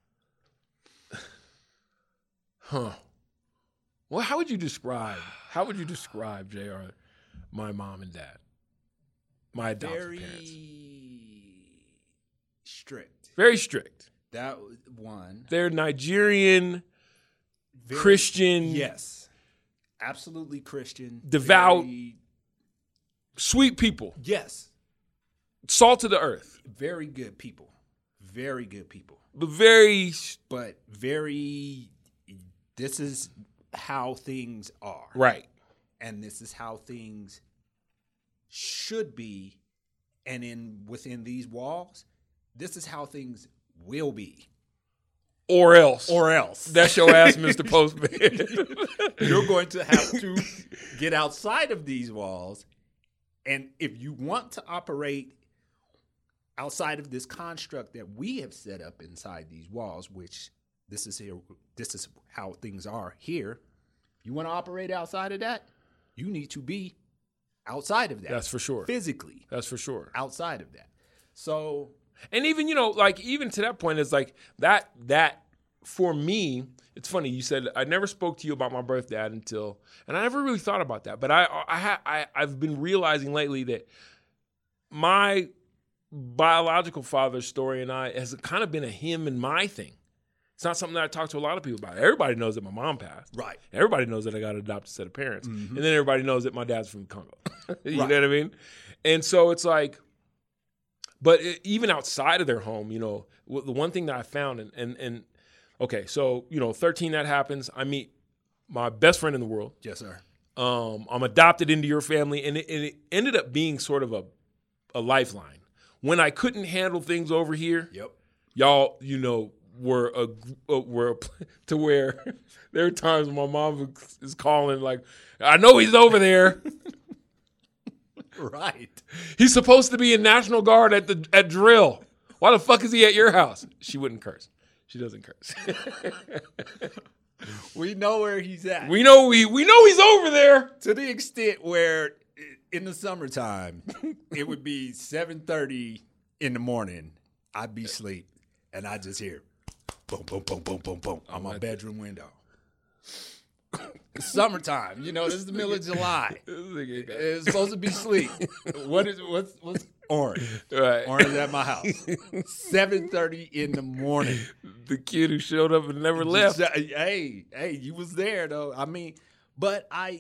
how would you describe, JR, my mom and dad? My adopted parents. Strict. Very strict. That one. They're Nigerian, Christian. Yes. Absolutely Christian. Devout. Sweet people. Yes. Salt of the earth. Very good people. Very good people. But very. This is how things are. Right. And this is how things should be. And within these walls, this is how things will be. Or else. That's your ass, Mr. Postman. You're going to have to get outside of these walls. And if you want to operate outside of this construct that we have set up inside these walls, which this is how things are here. You want to operate outside of that? You need to be outside of that. That's for sure. Physically. That's for sure. Outside of that. So... And even, even to that point, it's like that for me, it's funny. You said I never spoke to you about my birth dad and I never really thought about that. But I've been realizing lately that my biological father's story and I has kind of been a him and my thing. It's not something that I talk to a lot of people about. Everybody knows that my mom passed. Right. Everybody knows that I got an adopted set of parents. Mm-hmm. And then everybody knows that my dad's from Congo. You know what I mean? And so it's like, but even outside of their home, the one thing that I found, okay, so, 13, that happens. I meet my best friend in the world. Yes, sir. I'm adopted into your family, and it ended up being sort of a lifeline. When I couldn't handle things over here, yep, y'all, were to where there are times when my mom is calling like, I know he's over there. Right. He's supposed to be in National Guard at drill. Why the fuck is he at your house? She wouldn't curse. She doesn't curse. We know where he's at. We know he's over there. To the extent where in the summertime, it would be 7:30 in the morning. I'd be asleep, and I just hear boom, boom, boom, boom, boom, boom on my bedroom window. It's summertime, this is the middle of July. It's supposed to be sleep. What's orange? Right. Orange at my house. 7:30 in the morning. The kid who showed up and never left. Hey, you was there though. I mean, but I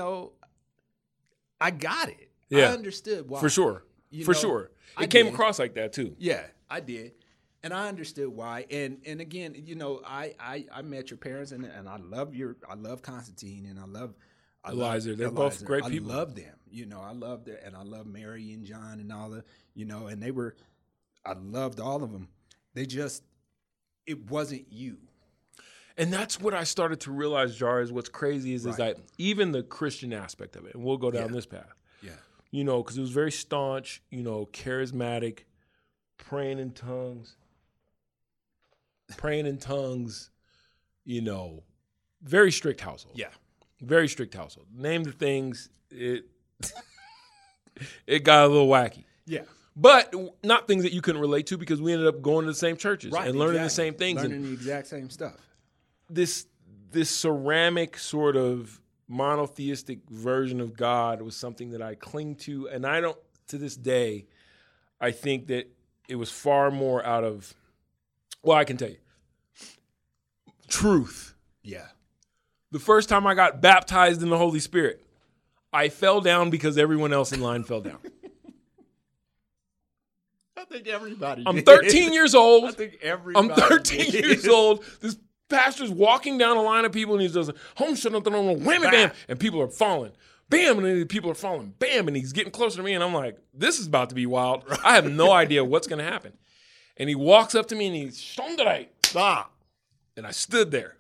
got it. Yeah. I understood why. For sure. It came across like that too. Yeah, I did. And I understood why. And again, I met your parents and I love Constantine and I love Eliza. They're both great people. I love them. I love them, and I love Mary and John and all the, and I loved all of them. It wasn't you. And that's what I started to realize, Jar, is what's crazy is that even the Christian aspect of it, and we'll go down this path. Yeah. Because it was very staunch, charismatic, praying in tongues, very strict household. Yeah. Very strict household. Name the things, it got a little wacky. Yeah. But not things that you couldn't relate to because we ended up going to the same churches and learning the same things. Learning the exact same stuff. This ceramic sort of monotheistic version of God was something that I cling to. And to this day, I think that it was far more out of, I can tell you, truth. Yeah. The first time I got baptized in the Holy Spirit, I fell down because everyone else in line fell down. I think everybody I'm 13 years old. I think everybody I'm 13 years old. This pastor's walking down a line of people, and he does home shut on whammy bam, and people are falling. Bam, and then people are falling. Bam, and he's getting closer to me, and I'm like, this is about to be wild. I have no idea what's going to happen. And he walks up to me, and he's, Shondarai, stop. And I stood there.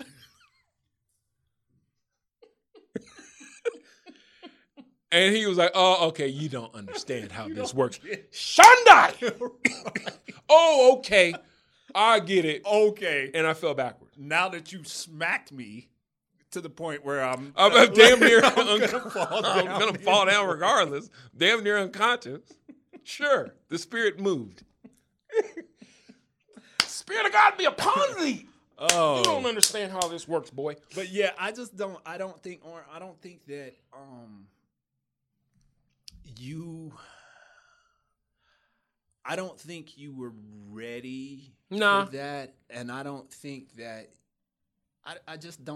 And he was like, oh, okay, you don't understand how this works. Shondai! Oh, okay. I get it. Okay. And I fell backwards. Now that you smacked me to the point where I'm damn near I'm gonna fall down regardless. Damn near unconscious. Sure, the spirit moved. Spirit of God be upon thee. Oh, you don't understand how this works, boy. But yeah, I don't think that I don't think you were ready for that, and I don't think that I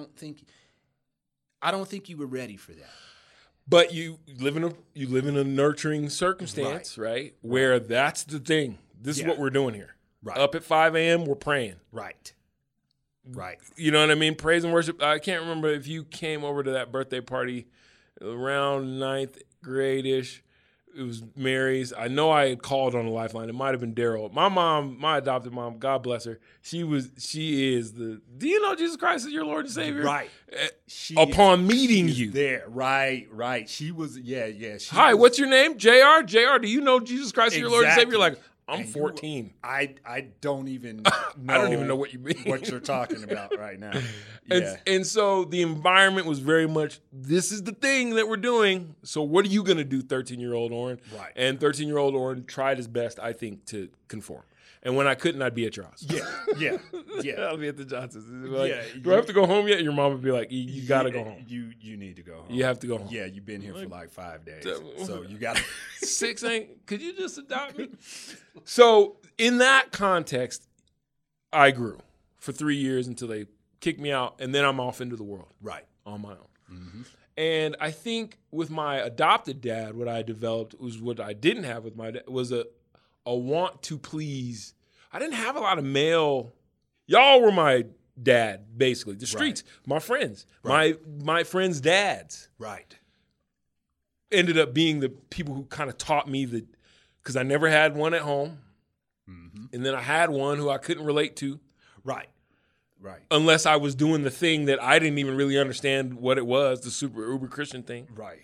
don't think you were ready for that. But you live in a nurturing circumstance, right? Where that's the thing. This is what we're doing here. Right. Up at 5 a.m., we're praying. Right. You know what I mean? Praise and worship. I can't remember if you came over to that birthday party around 9th grade-ish. It was Mary's. I know I had called on the lifeline. It might have been Daryl. My mom, my adopted mom, God bless her. She is the. Do you know Jesus Christ is your Lord and Savior? Right. Upon meeting you there, right. She was. Yeah. Hi, what's your name? JR. JR. Do you know Jesus Christ is your Lord and Savior? You're like, I'm 14. I don't even know. I don't even know what you mean. What you're talking about right now. And so the environment was very much, this is the thing that we're doing. So what are you going to do, 13-year-old Oren? Right. And 13-year-old Oren tried his best, I think, to conform. And when I couldn't, I'd be at your house. Yeah. I'll be at the Johnsons. Like, do I have to go home yet? Your mom would be like, you got to go home. You need to go home. You have to go home. Yeah, you've been here for like 5 days. So you got to. 6 ain't, could you just adopt me? So in that context, I grew for 3 years until they kicked me out, and then I'm off into the world. Right. On my own. Mm-hmm. And I think with my adopted dad, what I developed was what I didn't have with my dad was a want to please. I didn't have a lot of male. Y'all were my dad, basically. The streets, my friends, my friends' dads. Right. Ended up being the people who kind of taught me that, because I never had one at home. Mm-hmm. And then I had one who I couldn't relate to. Right. Unless I was doing the thing that I didn't even really understand what it was, the super uber Christian thing. Right.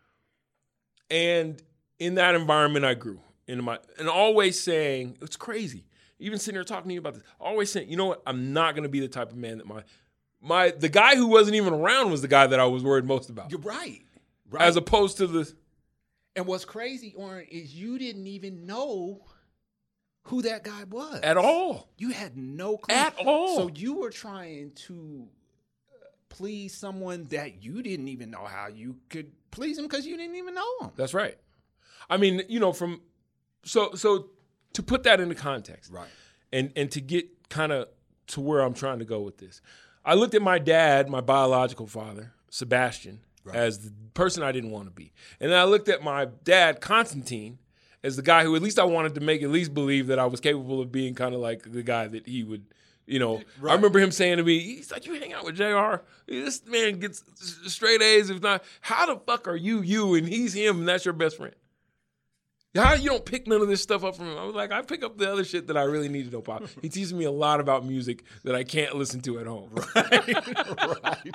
And in that environment, I grew and always saying, it's crazy. Even sitting here talking to you about this, always saying, you know what? I'm not going to be the type of man that the guy who wasn't even around was the guy that I was worried most about. You're right. As opposed to the. And what's crazy, Oren, is you didn't even know who that guy was. At all. You had no clue. At all. So you were trying to please someone that you didn't even know how you could please him because you didn't even know him. That's right. I mean, so to put that into context. Right. And to get kind of to where I'm trying to go with this. I looked at my dad, my biological father, Sebastian, as the person I didn't want to be. And then I looked at my dad, Constantine, as the guy who at least I wanted to make at least believe that I was capable of being kind of like the guy that he would, I remember him saying to me, he's like, you hang out with JR, this man gets straight A's. If not, how the fuck are you and he's him and that's your best friend? How you don't pick none of this stuff up from him? I was like, I pick up the other shit that I really need to know about. He teaches me a lot about music that I can't listen to at home. Right.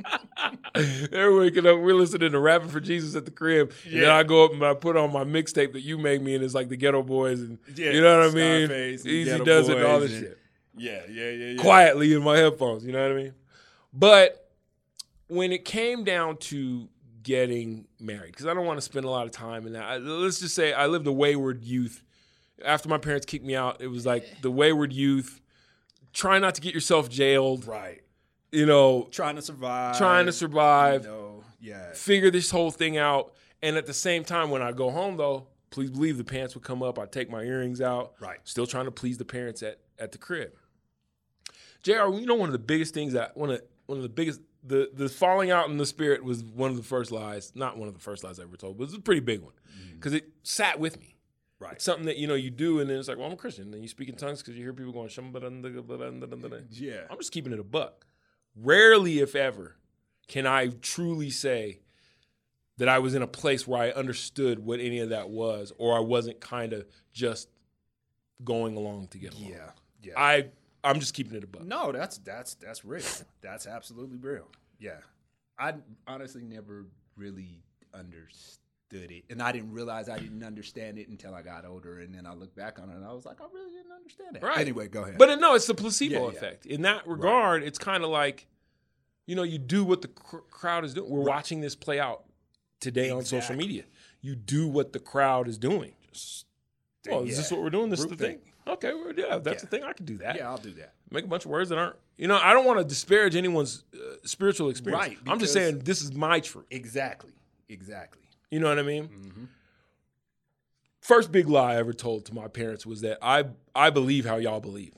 Every waking up, we're listening to Rapping for Jesus at the crib. Yeah. And then I go up and I put on my mixtape that you make me, and it's like the Ghetto Boys and you know what I mean? Easy Does It and all this shit. Yeah. Quietly in my headphones, you know what I mean? But when it came down to getting married, because I don't want to spend a lot of time in that. Let's just say I lived a wayward youth. After my parents kicked me out, it was like the wayward youth, trying not to get yourself jailed. Right. Trying to survive. Figure this whole thing out. And at the same time, when I go home, though, please believe the pants would come up. I'd take my earrings out. Right. Still trying to please the parents at the crib. JR, one of the biggest things one of the biggest, the falling out in the spirit was one of the first lies, not one of the first lies I ever told, but it was a pretty big one because it sat with me. Right. It's something that, you do, and then it's like, well, I'm a Christian. And then you speak in tongues because you hear people going, yeah. I'm just keeping it a buck. Rarely, if ever, can I truly say that I was in a place where I understood what any of that was, or I wasn't kind of just going along to get along. Yeah. I'm just keeping it a buck. No, that's real. That's absolutely real. Yeah. I honestly never really understood it, and I didn't realize I didn't understand it until I got older, and then I look back on it and I was like, I really didn't understand it. Right. Anyway, go ahead. But no, it's the placebo effect. In that regard, it's kind of like, you do what the crowd is doing. We're watching this play out today on social media. You do what the crowd is doing. Is this what we're doing? This is the thing. Okay, that's the thing. I can do that. Yeah, I'll do that. Make a bunch of words that aren't, I don't want to disparage anyone's spiritual experience. Right. I'm just saying this is my truth. Exactly. You know what I mean? Mm-hmm. First big lie I ever told to my parents was that I believe how y'all believe.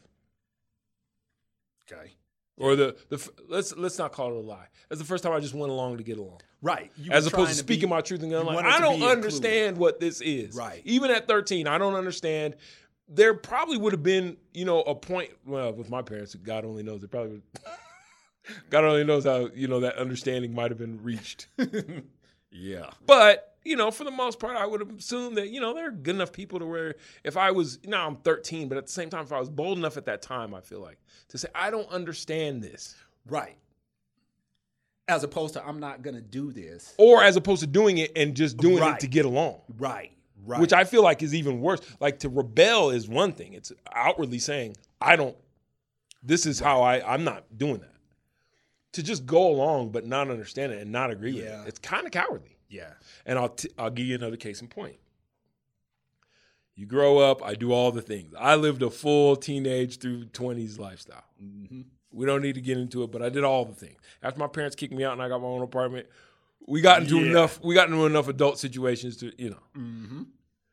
Okay. Or let's not call it a lie. That's the first time I just went along to get along. Right. As opposed to speaking my truth and going like, I don't understand what this is. Right. Even at 13, I don't understand. There probably would have been, a point, well, with my parents, God only knows, God only knows how, that understanding might have been reached. Yeah. But, for the most part, I would have assumed that, there are good enough people to where if I was, now I'm 13, but at the same time, if I was bold enough at that time, I feel like, to say, I don't understand this. Right. As opposed to, I'm not going to do this. Or as opposed to doing it and just doing it to get along. Right. Which I feel like is even worse. Like, to rebel is one thing. It's outwardly saying, this is how I'm not doing that. To just go along but not understand it and not agree with it, it's kind of cowardly. Yeah. And I'll give you another case in point. You grow up, I do all the things. I lived a full teenage through 20s lifestyle. Mm-hmm. We don't need to get into it, but I did all the things. After my parents kicked me out and I got my own apartment, we got into enough adult situations to, Mm-hmm.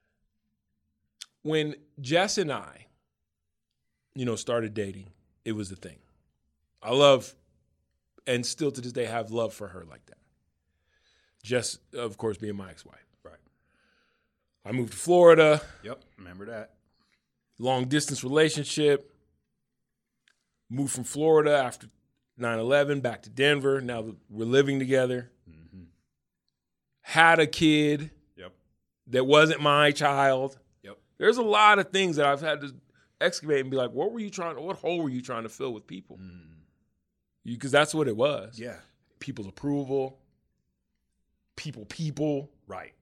When Jess and I, started dating, it was the thing. I love, and still to this day have love for her like that. Jess, of course, being my ex-wife. Right. I moved to Florida. Yep, remember that. Long distance relationship. Moved from Florida after 9/11 back to Denver. Now we're living together. Mm-hmm. Had a kid. Yep. That wasn't my child. Yep. There's a lot of things that I've had to excavate and be like, what hole were you trying to fill with people? Because that's what it was. Yeah. People's approval. People. Right.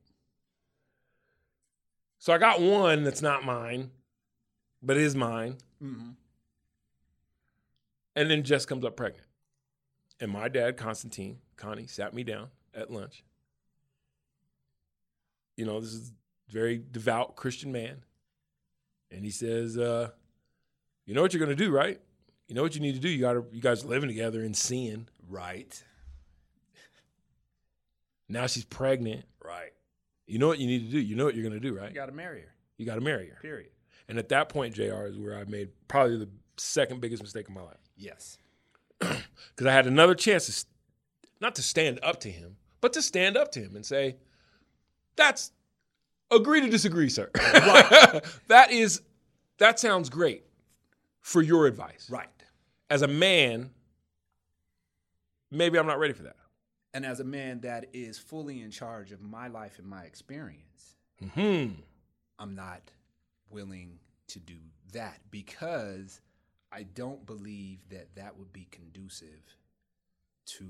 So I got one that's not mine, but is mine. Mm-hmm. And then Jess comes up pregnant. And my dad, Connie, sat me down at lunch. This is a very devout Christian man. And he says, you know what you're going to do, right? You know what you need to do? You guys are living together in sin. Right. Now she's pregnant. Right. You know what you need to do. You know what you're going to do, right? You got to marry her. You got to marry her. Period. And at that point, JR, is where I made probably the second biggest mistake of my life. Yes. Because I had another chance not to stand up to him, but to stand up to him and say, agree to disagree, sir. Right. That sounds great for your advice. Right. As a man, maybe I'm not ready for that. And as a man that is fully in charge of my life and my experience, I'm not willing to do that because I don't believe that would be conducive to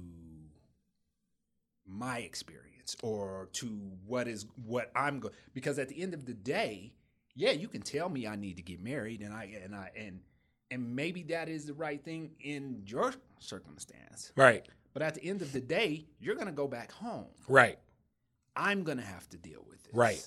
my experience or to what I'm going. Because at the end of the day, yeah, you can tell me I need to get married, and maybe that is the right thing in your circumstance. Right. But at the end of the day, you're going to go back home. Right. I'm going to have to deal with this. Right.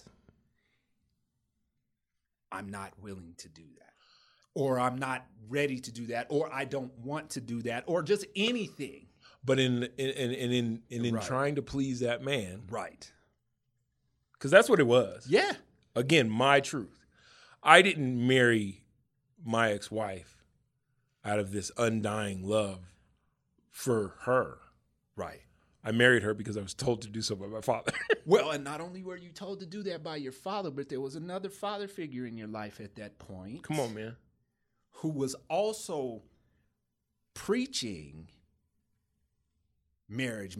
I'm not willing to do that. Or I'm not ready to do that. Or I don't want to do that. Or just anything. But in trying to please that man. Right. Because that's what it was. Yeah. Again, my truth. I didn't marry my ex-wife out of this undying love for her. Right. I married her because I was told to do so by my father. Well, and not only were you told to do that by your father, but there was another father figure in your life at that point. Come on, man. Who was also preaching marriage.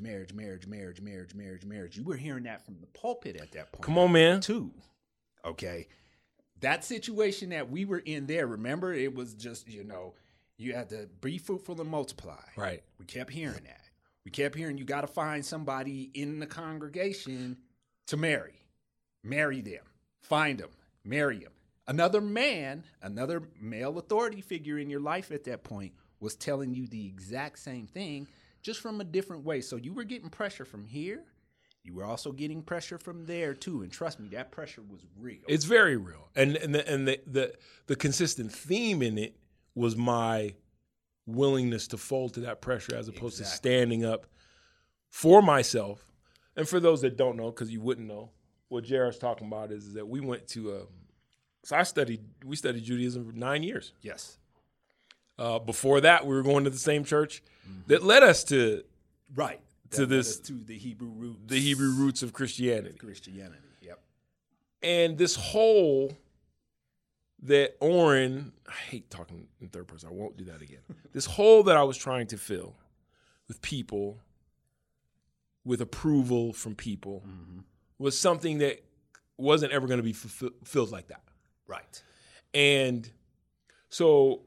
You were hearing that from the pulpit at that point. Come on, man. Too. Okay. That situation that we were in there, remember, it was just, you had to be fruitful and multiply. Right. We kept hearing that. We kept hearing you got to find somebody in the congregation to marry. Marry them. Find them. Marry them. Another man, another male authority figure in your life at that point was telling you the exact same thing, just from a different way. So you were getting pressure from here. You were also getting pressure from there too. And trust me, that pressure was real. It's very real. And the consistent theme in it was my willingness to fold to that pressure as opposed to standing up for myself. And for those that don't know, because you wouldn't know, what Jared's talking about is that we went to we studied Judaism for 9 years. Yes. Before that, we were going to the same church that led us to the Hebrew roots of Christianity. Yep. And this hole that Oren, I hate talking in third person, I won't do that again. This hole that I was trying to fill with people, with approval from people, was something that wasn't ever going to be fulfilled like that. Right. And so,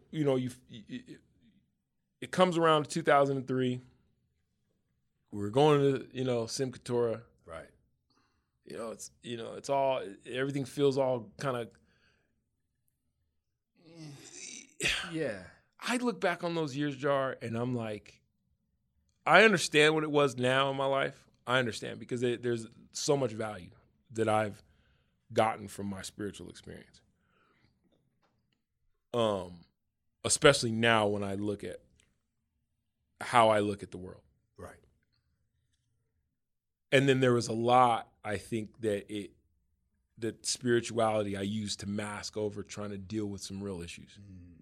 it comes around to 2003. We were going to, Simchat Torah. Right. It's all, everything feels all kind of. Yeah. I look back on those years, Jar, and I'm like, I understand what it was now in my life. I understand because there's so much value that I've gotten from my spiritual experience. Especially now when I look at how I look at the world. Right. And then there was a lot, I think, that spirituality I used to mask over trying to deal with some real issues.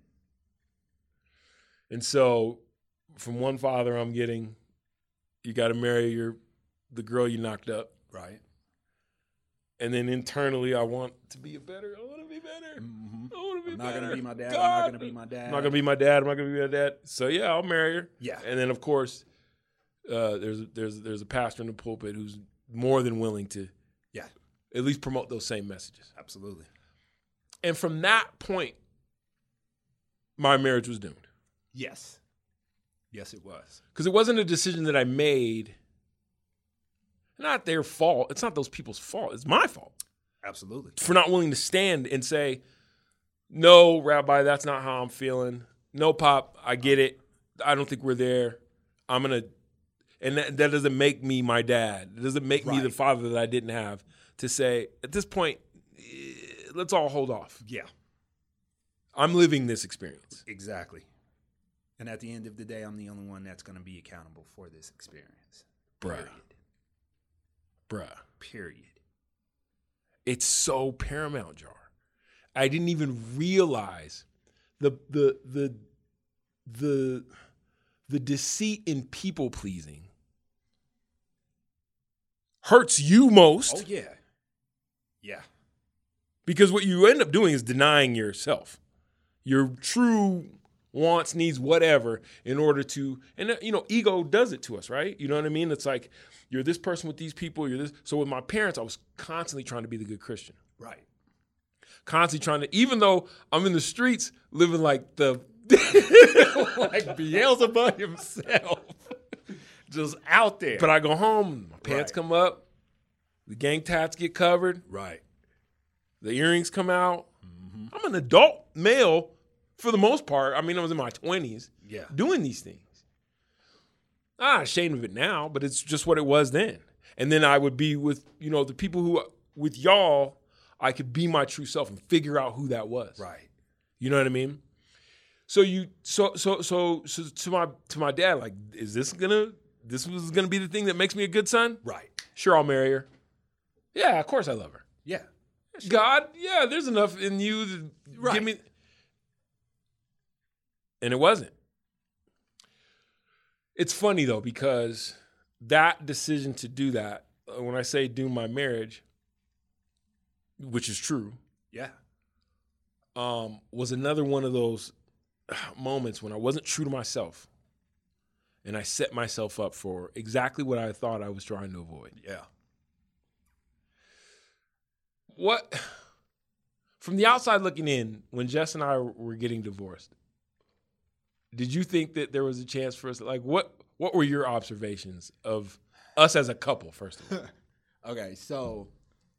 And so from one father I'm getting, you got to marry the girl you knocked up. Right. And then internally I want to be better. I want to be better. Mm-hmm. I want to be I'm not better. going to be my dad. God. I'm not going to be my dad. I'm not going to be my dad. I'm not going to be my dad. So yeah, I'll marry her. Yeah. And then of course, there's a pastor in the pulpit who's more than willing to at least promote those same messages. Absolutely. And from that point, my marriage was doomed. Yes. Yes, it was. Because it wasn't a decision that I made. Not their fault. It's not those people's fault. It's my fault. Absolutely. For not willing to stand and say, no, Rabbi, that's not how I'm feeling. No, Pop, I get it. I don't think we're there. I'm going to, and that doesn't make me my dad. It doesn't make me the father that I didn't have to say, at this point, let's all hold off. Yeah. I'm living this experience. Exactly. And at the end of the day, I'm the only one that's going to be accountable for this experience. Bruh. Period. It's so paramount, Jar. I didn't even realize the deceit in people pleasing hurts you most. Oh yeah. Yeah. Because what you end up doing is denying yourself, your true wants, needs, whatever, in order to, and ego does it to us, right? You know what I mean? It's like, you're this person with these people, you're this. So with my parents, I was constantly trying to be the good Christian. Right. Constantly trying to, even though I'm in the streets living like like Beelzebub himself. Just out there. But I go home, my pants come up, the gang tats get covered. Right. The earrings come out. Mm-hmm. I'm an adult male for the most part. I mean, I was in my 20s doing these things. I'm not ashamed of it now, but it's just what it was then. And then I would be with, the people who, with y'all, I could be my true self and figure out who that was. Right. You know what I mean? So to my dad, like, is this gonna be the thing that makes me a good son? Right. Sure, I'll marry her. Yeah, of course I love her. Yeah. Sure. God, yeah, there's enough in you to give me. And it wasn't. It's funny though, because that decision to do that, when I say doom my marriage, which is true, yeah, was another one of those moments when I wasn't true to myself. And I set myself up for exactly what I thought I was trying to avoid. Yeah. What, from the outside looking in, when Jess and I were getting divorced, did you think that there was a chance for us? Like, what were your observations of us as a couple, first of all? Okay, so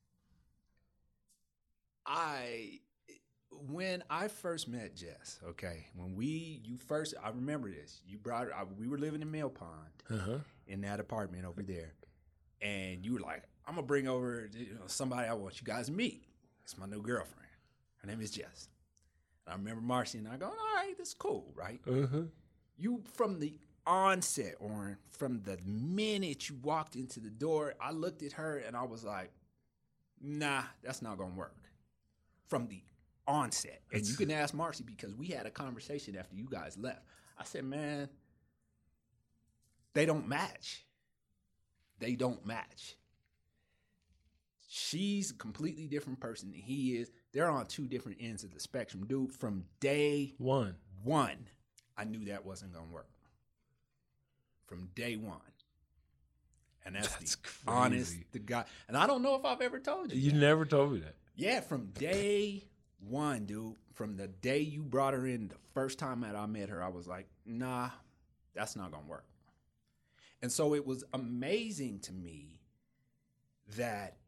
when I first met Jess, okay, I remember this. You brought her. We were living in Mill Pond in that apartment over there, and you were like, "I'm gonna bring over somebody I want you guys to meet. It's my new girlfriend. Her name is Jess." And I remember Marcy and I going, "All right, this is cool, right?" You from the onset, or from the minute you walked into the door, I looked at her and I was like, "Nah, that's not gonna work." From the onset. And you can ask Marcy, because we had a conversation after you guys left. I said, man, they don't match. They don't match. She's a completely different person than he is. They're on two different ends of the spectrum. Dude, from day one, I knew that wasn't going to work. From day one. And that's the honest to God. And I don't know if I've ever told you. You never told me that. Yeah, from day one, dude. From the day you brought her in, the first time that I met her, I was like, nah, that's not going to work. And so it was amazing to me that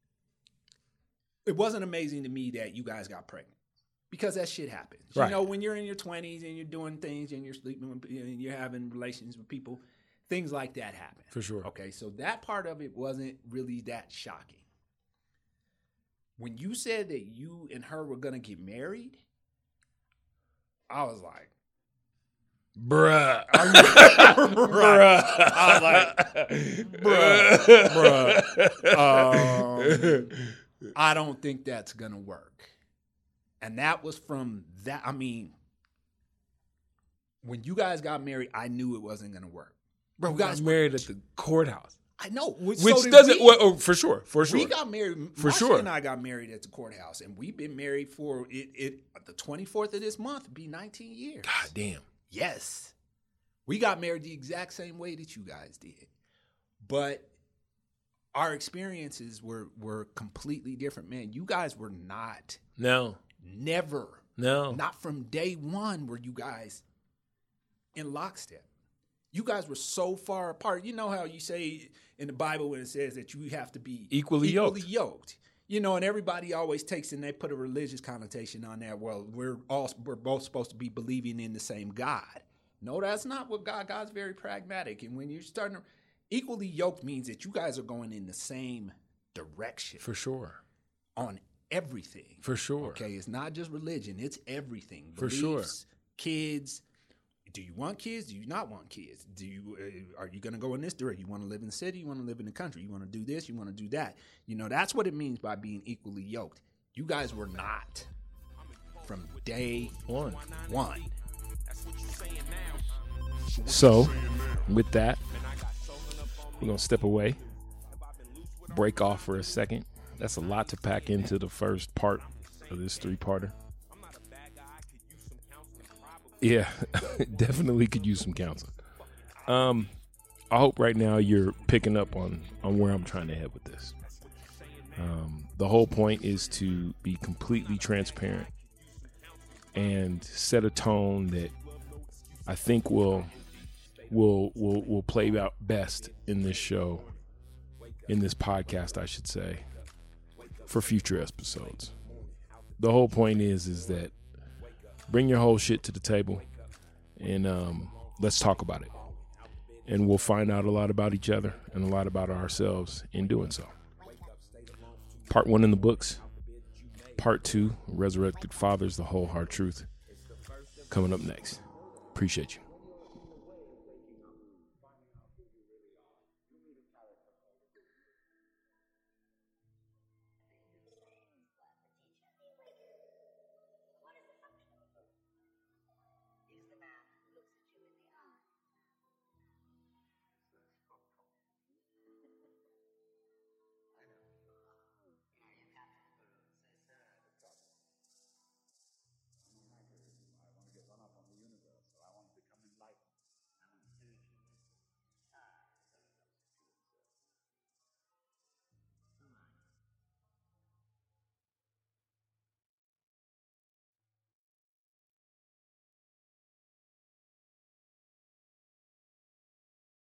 it wasn't amazing to me that you guys got pregnant, because that shit happens. Right. You know, when you're in your 20s and you're doing things and you're sleeping and you're having relations with people, things like that happen. For sure. Okay, so that part of it wasn't really that shocking. When you said that you and her were going to get married, I was like, bruh. Bruh. I was like, bruh. I don't think that's going to work. And that was from that. I mean, when you guys got married, I knew it wasn't going to work. Bro, you guys married at the courthous't. I know. Which doesn't, for sure. We got married. Marcia and I got married at the courthouse, and we've been married for the 24th of this month. It'd be 19 years. God damn. Yes. We got married the exact same way that you guys did. But our experiences were completely different. Man, you guys were not. No. Never. No. Not from day one were you guys in lockstep. You guys were so far apart. You know how you say in the Bible when it says that you have to be equally yoked. You know, and everybody always takes and they put a religious connotation on that. Well, we're both supposed to be believing in the same God. No, that's not what God's very pragmatic. And when you're starting to equally yoked means that you guys are going in the same direction. For sure. On everything. For sure. Okay, it's not just religion, it's everything. For Beliefs, sure. Kids. Do you want kids? Do you not want kids? Are you going to go in this direction? You want to live in the city? You want to live in the country? You want to do this? You want to do that? You know, that's what it means by being equally yoked. You guys were not from day one. So, with that, we're going to step away, break off for a second. That's a lot to pack into the first part of this three-parter. Yeah, definitely could use some counseling. I hope right now you're picking up on where I'm trying to head with this. The whole point is to be completely transparent and set a tone that I think will play out best in this show, in this podcast, I should say, for future episodes. The whole point is that bring your whole shit to the table and let's talk about it. And we'll find out a lot about each other and a lot about ourselves in doing so. Part 1 in the books. Part 2, Resurrected Fathers, the Whole Hard Truth. Coming up next. Appreciate you.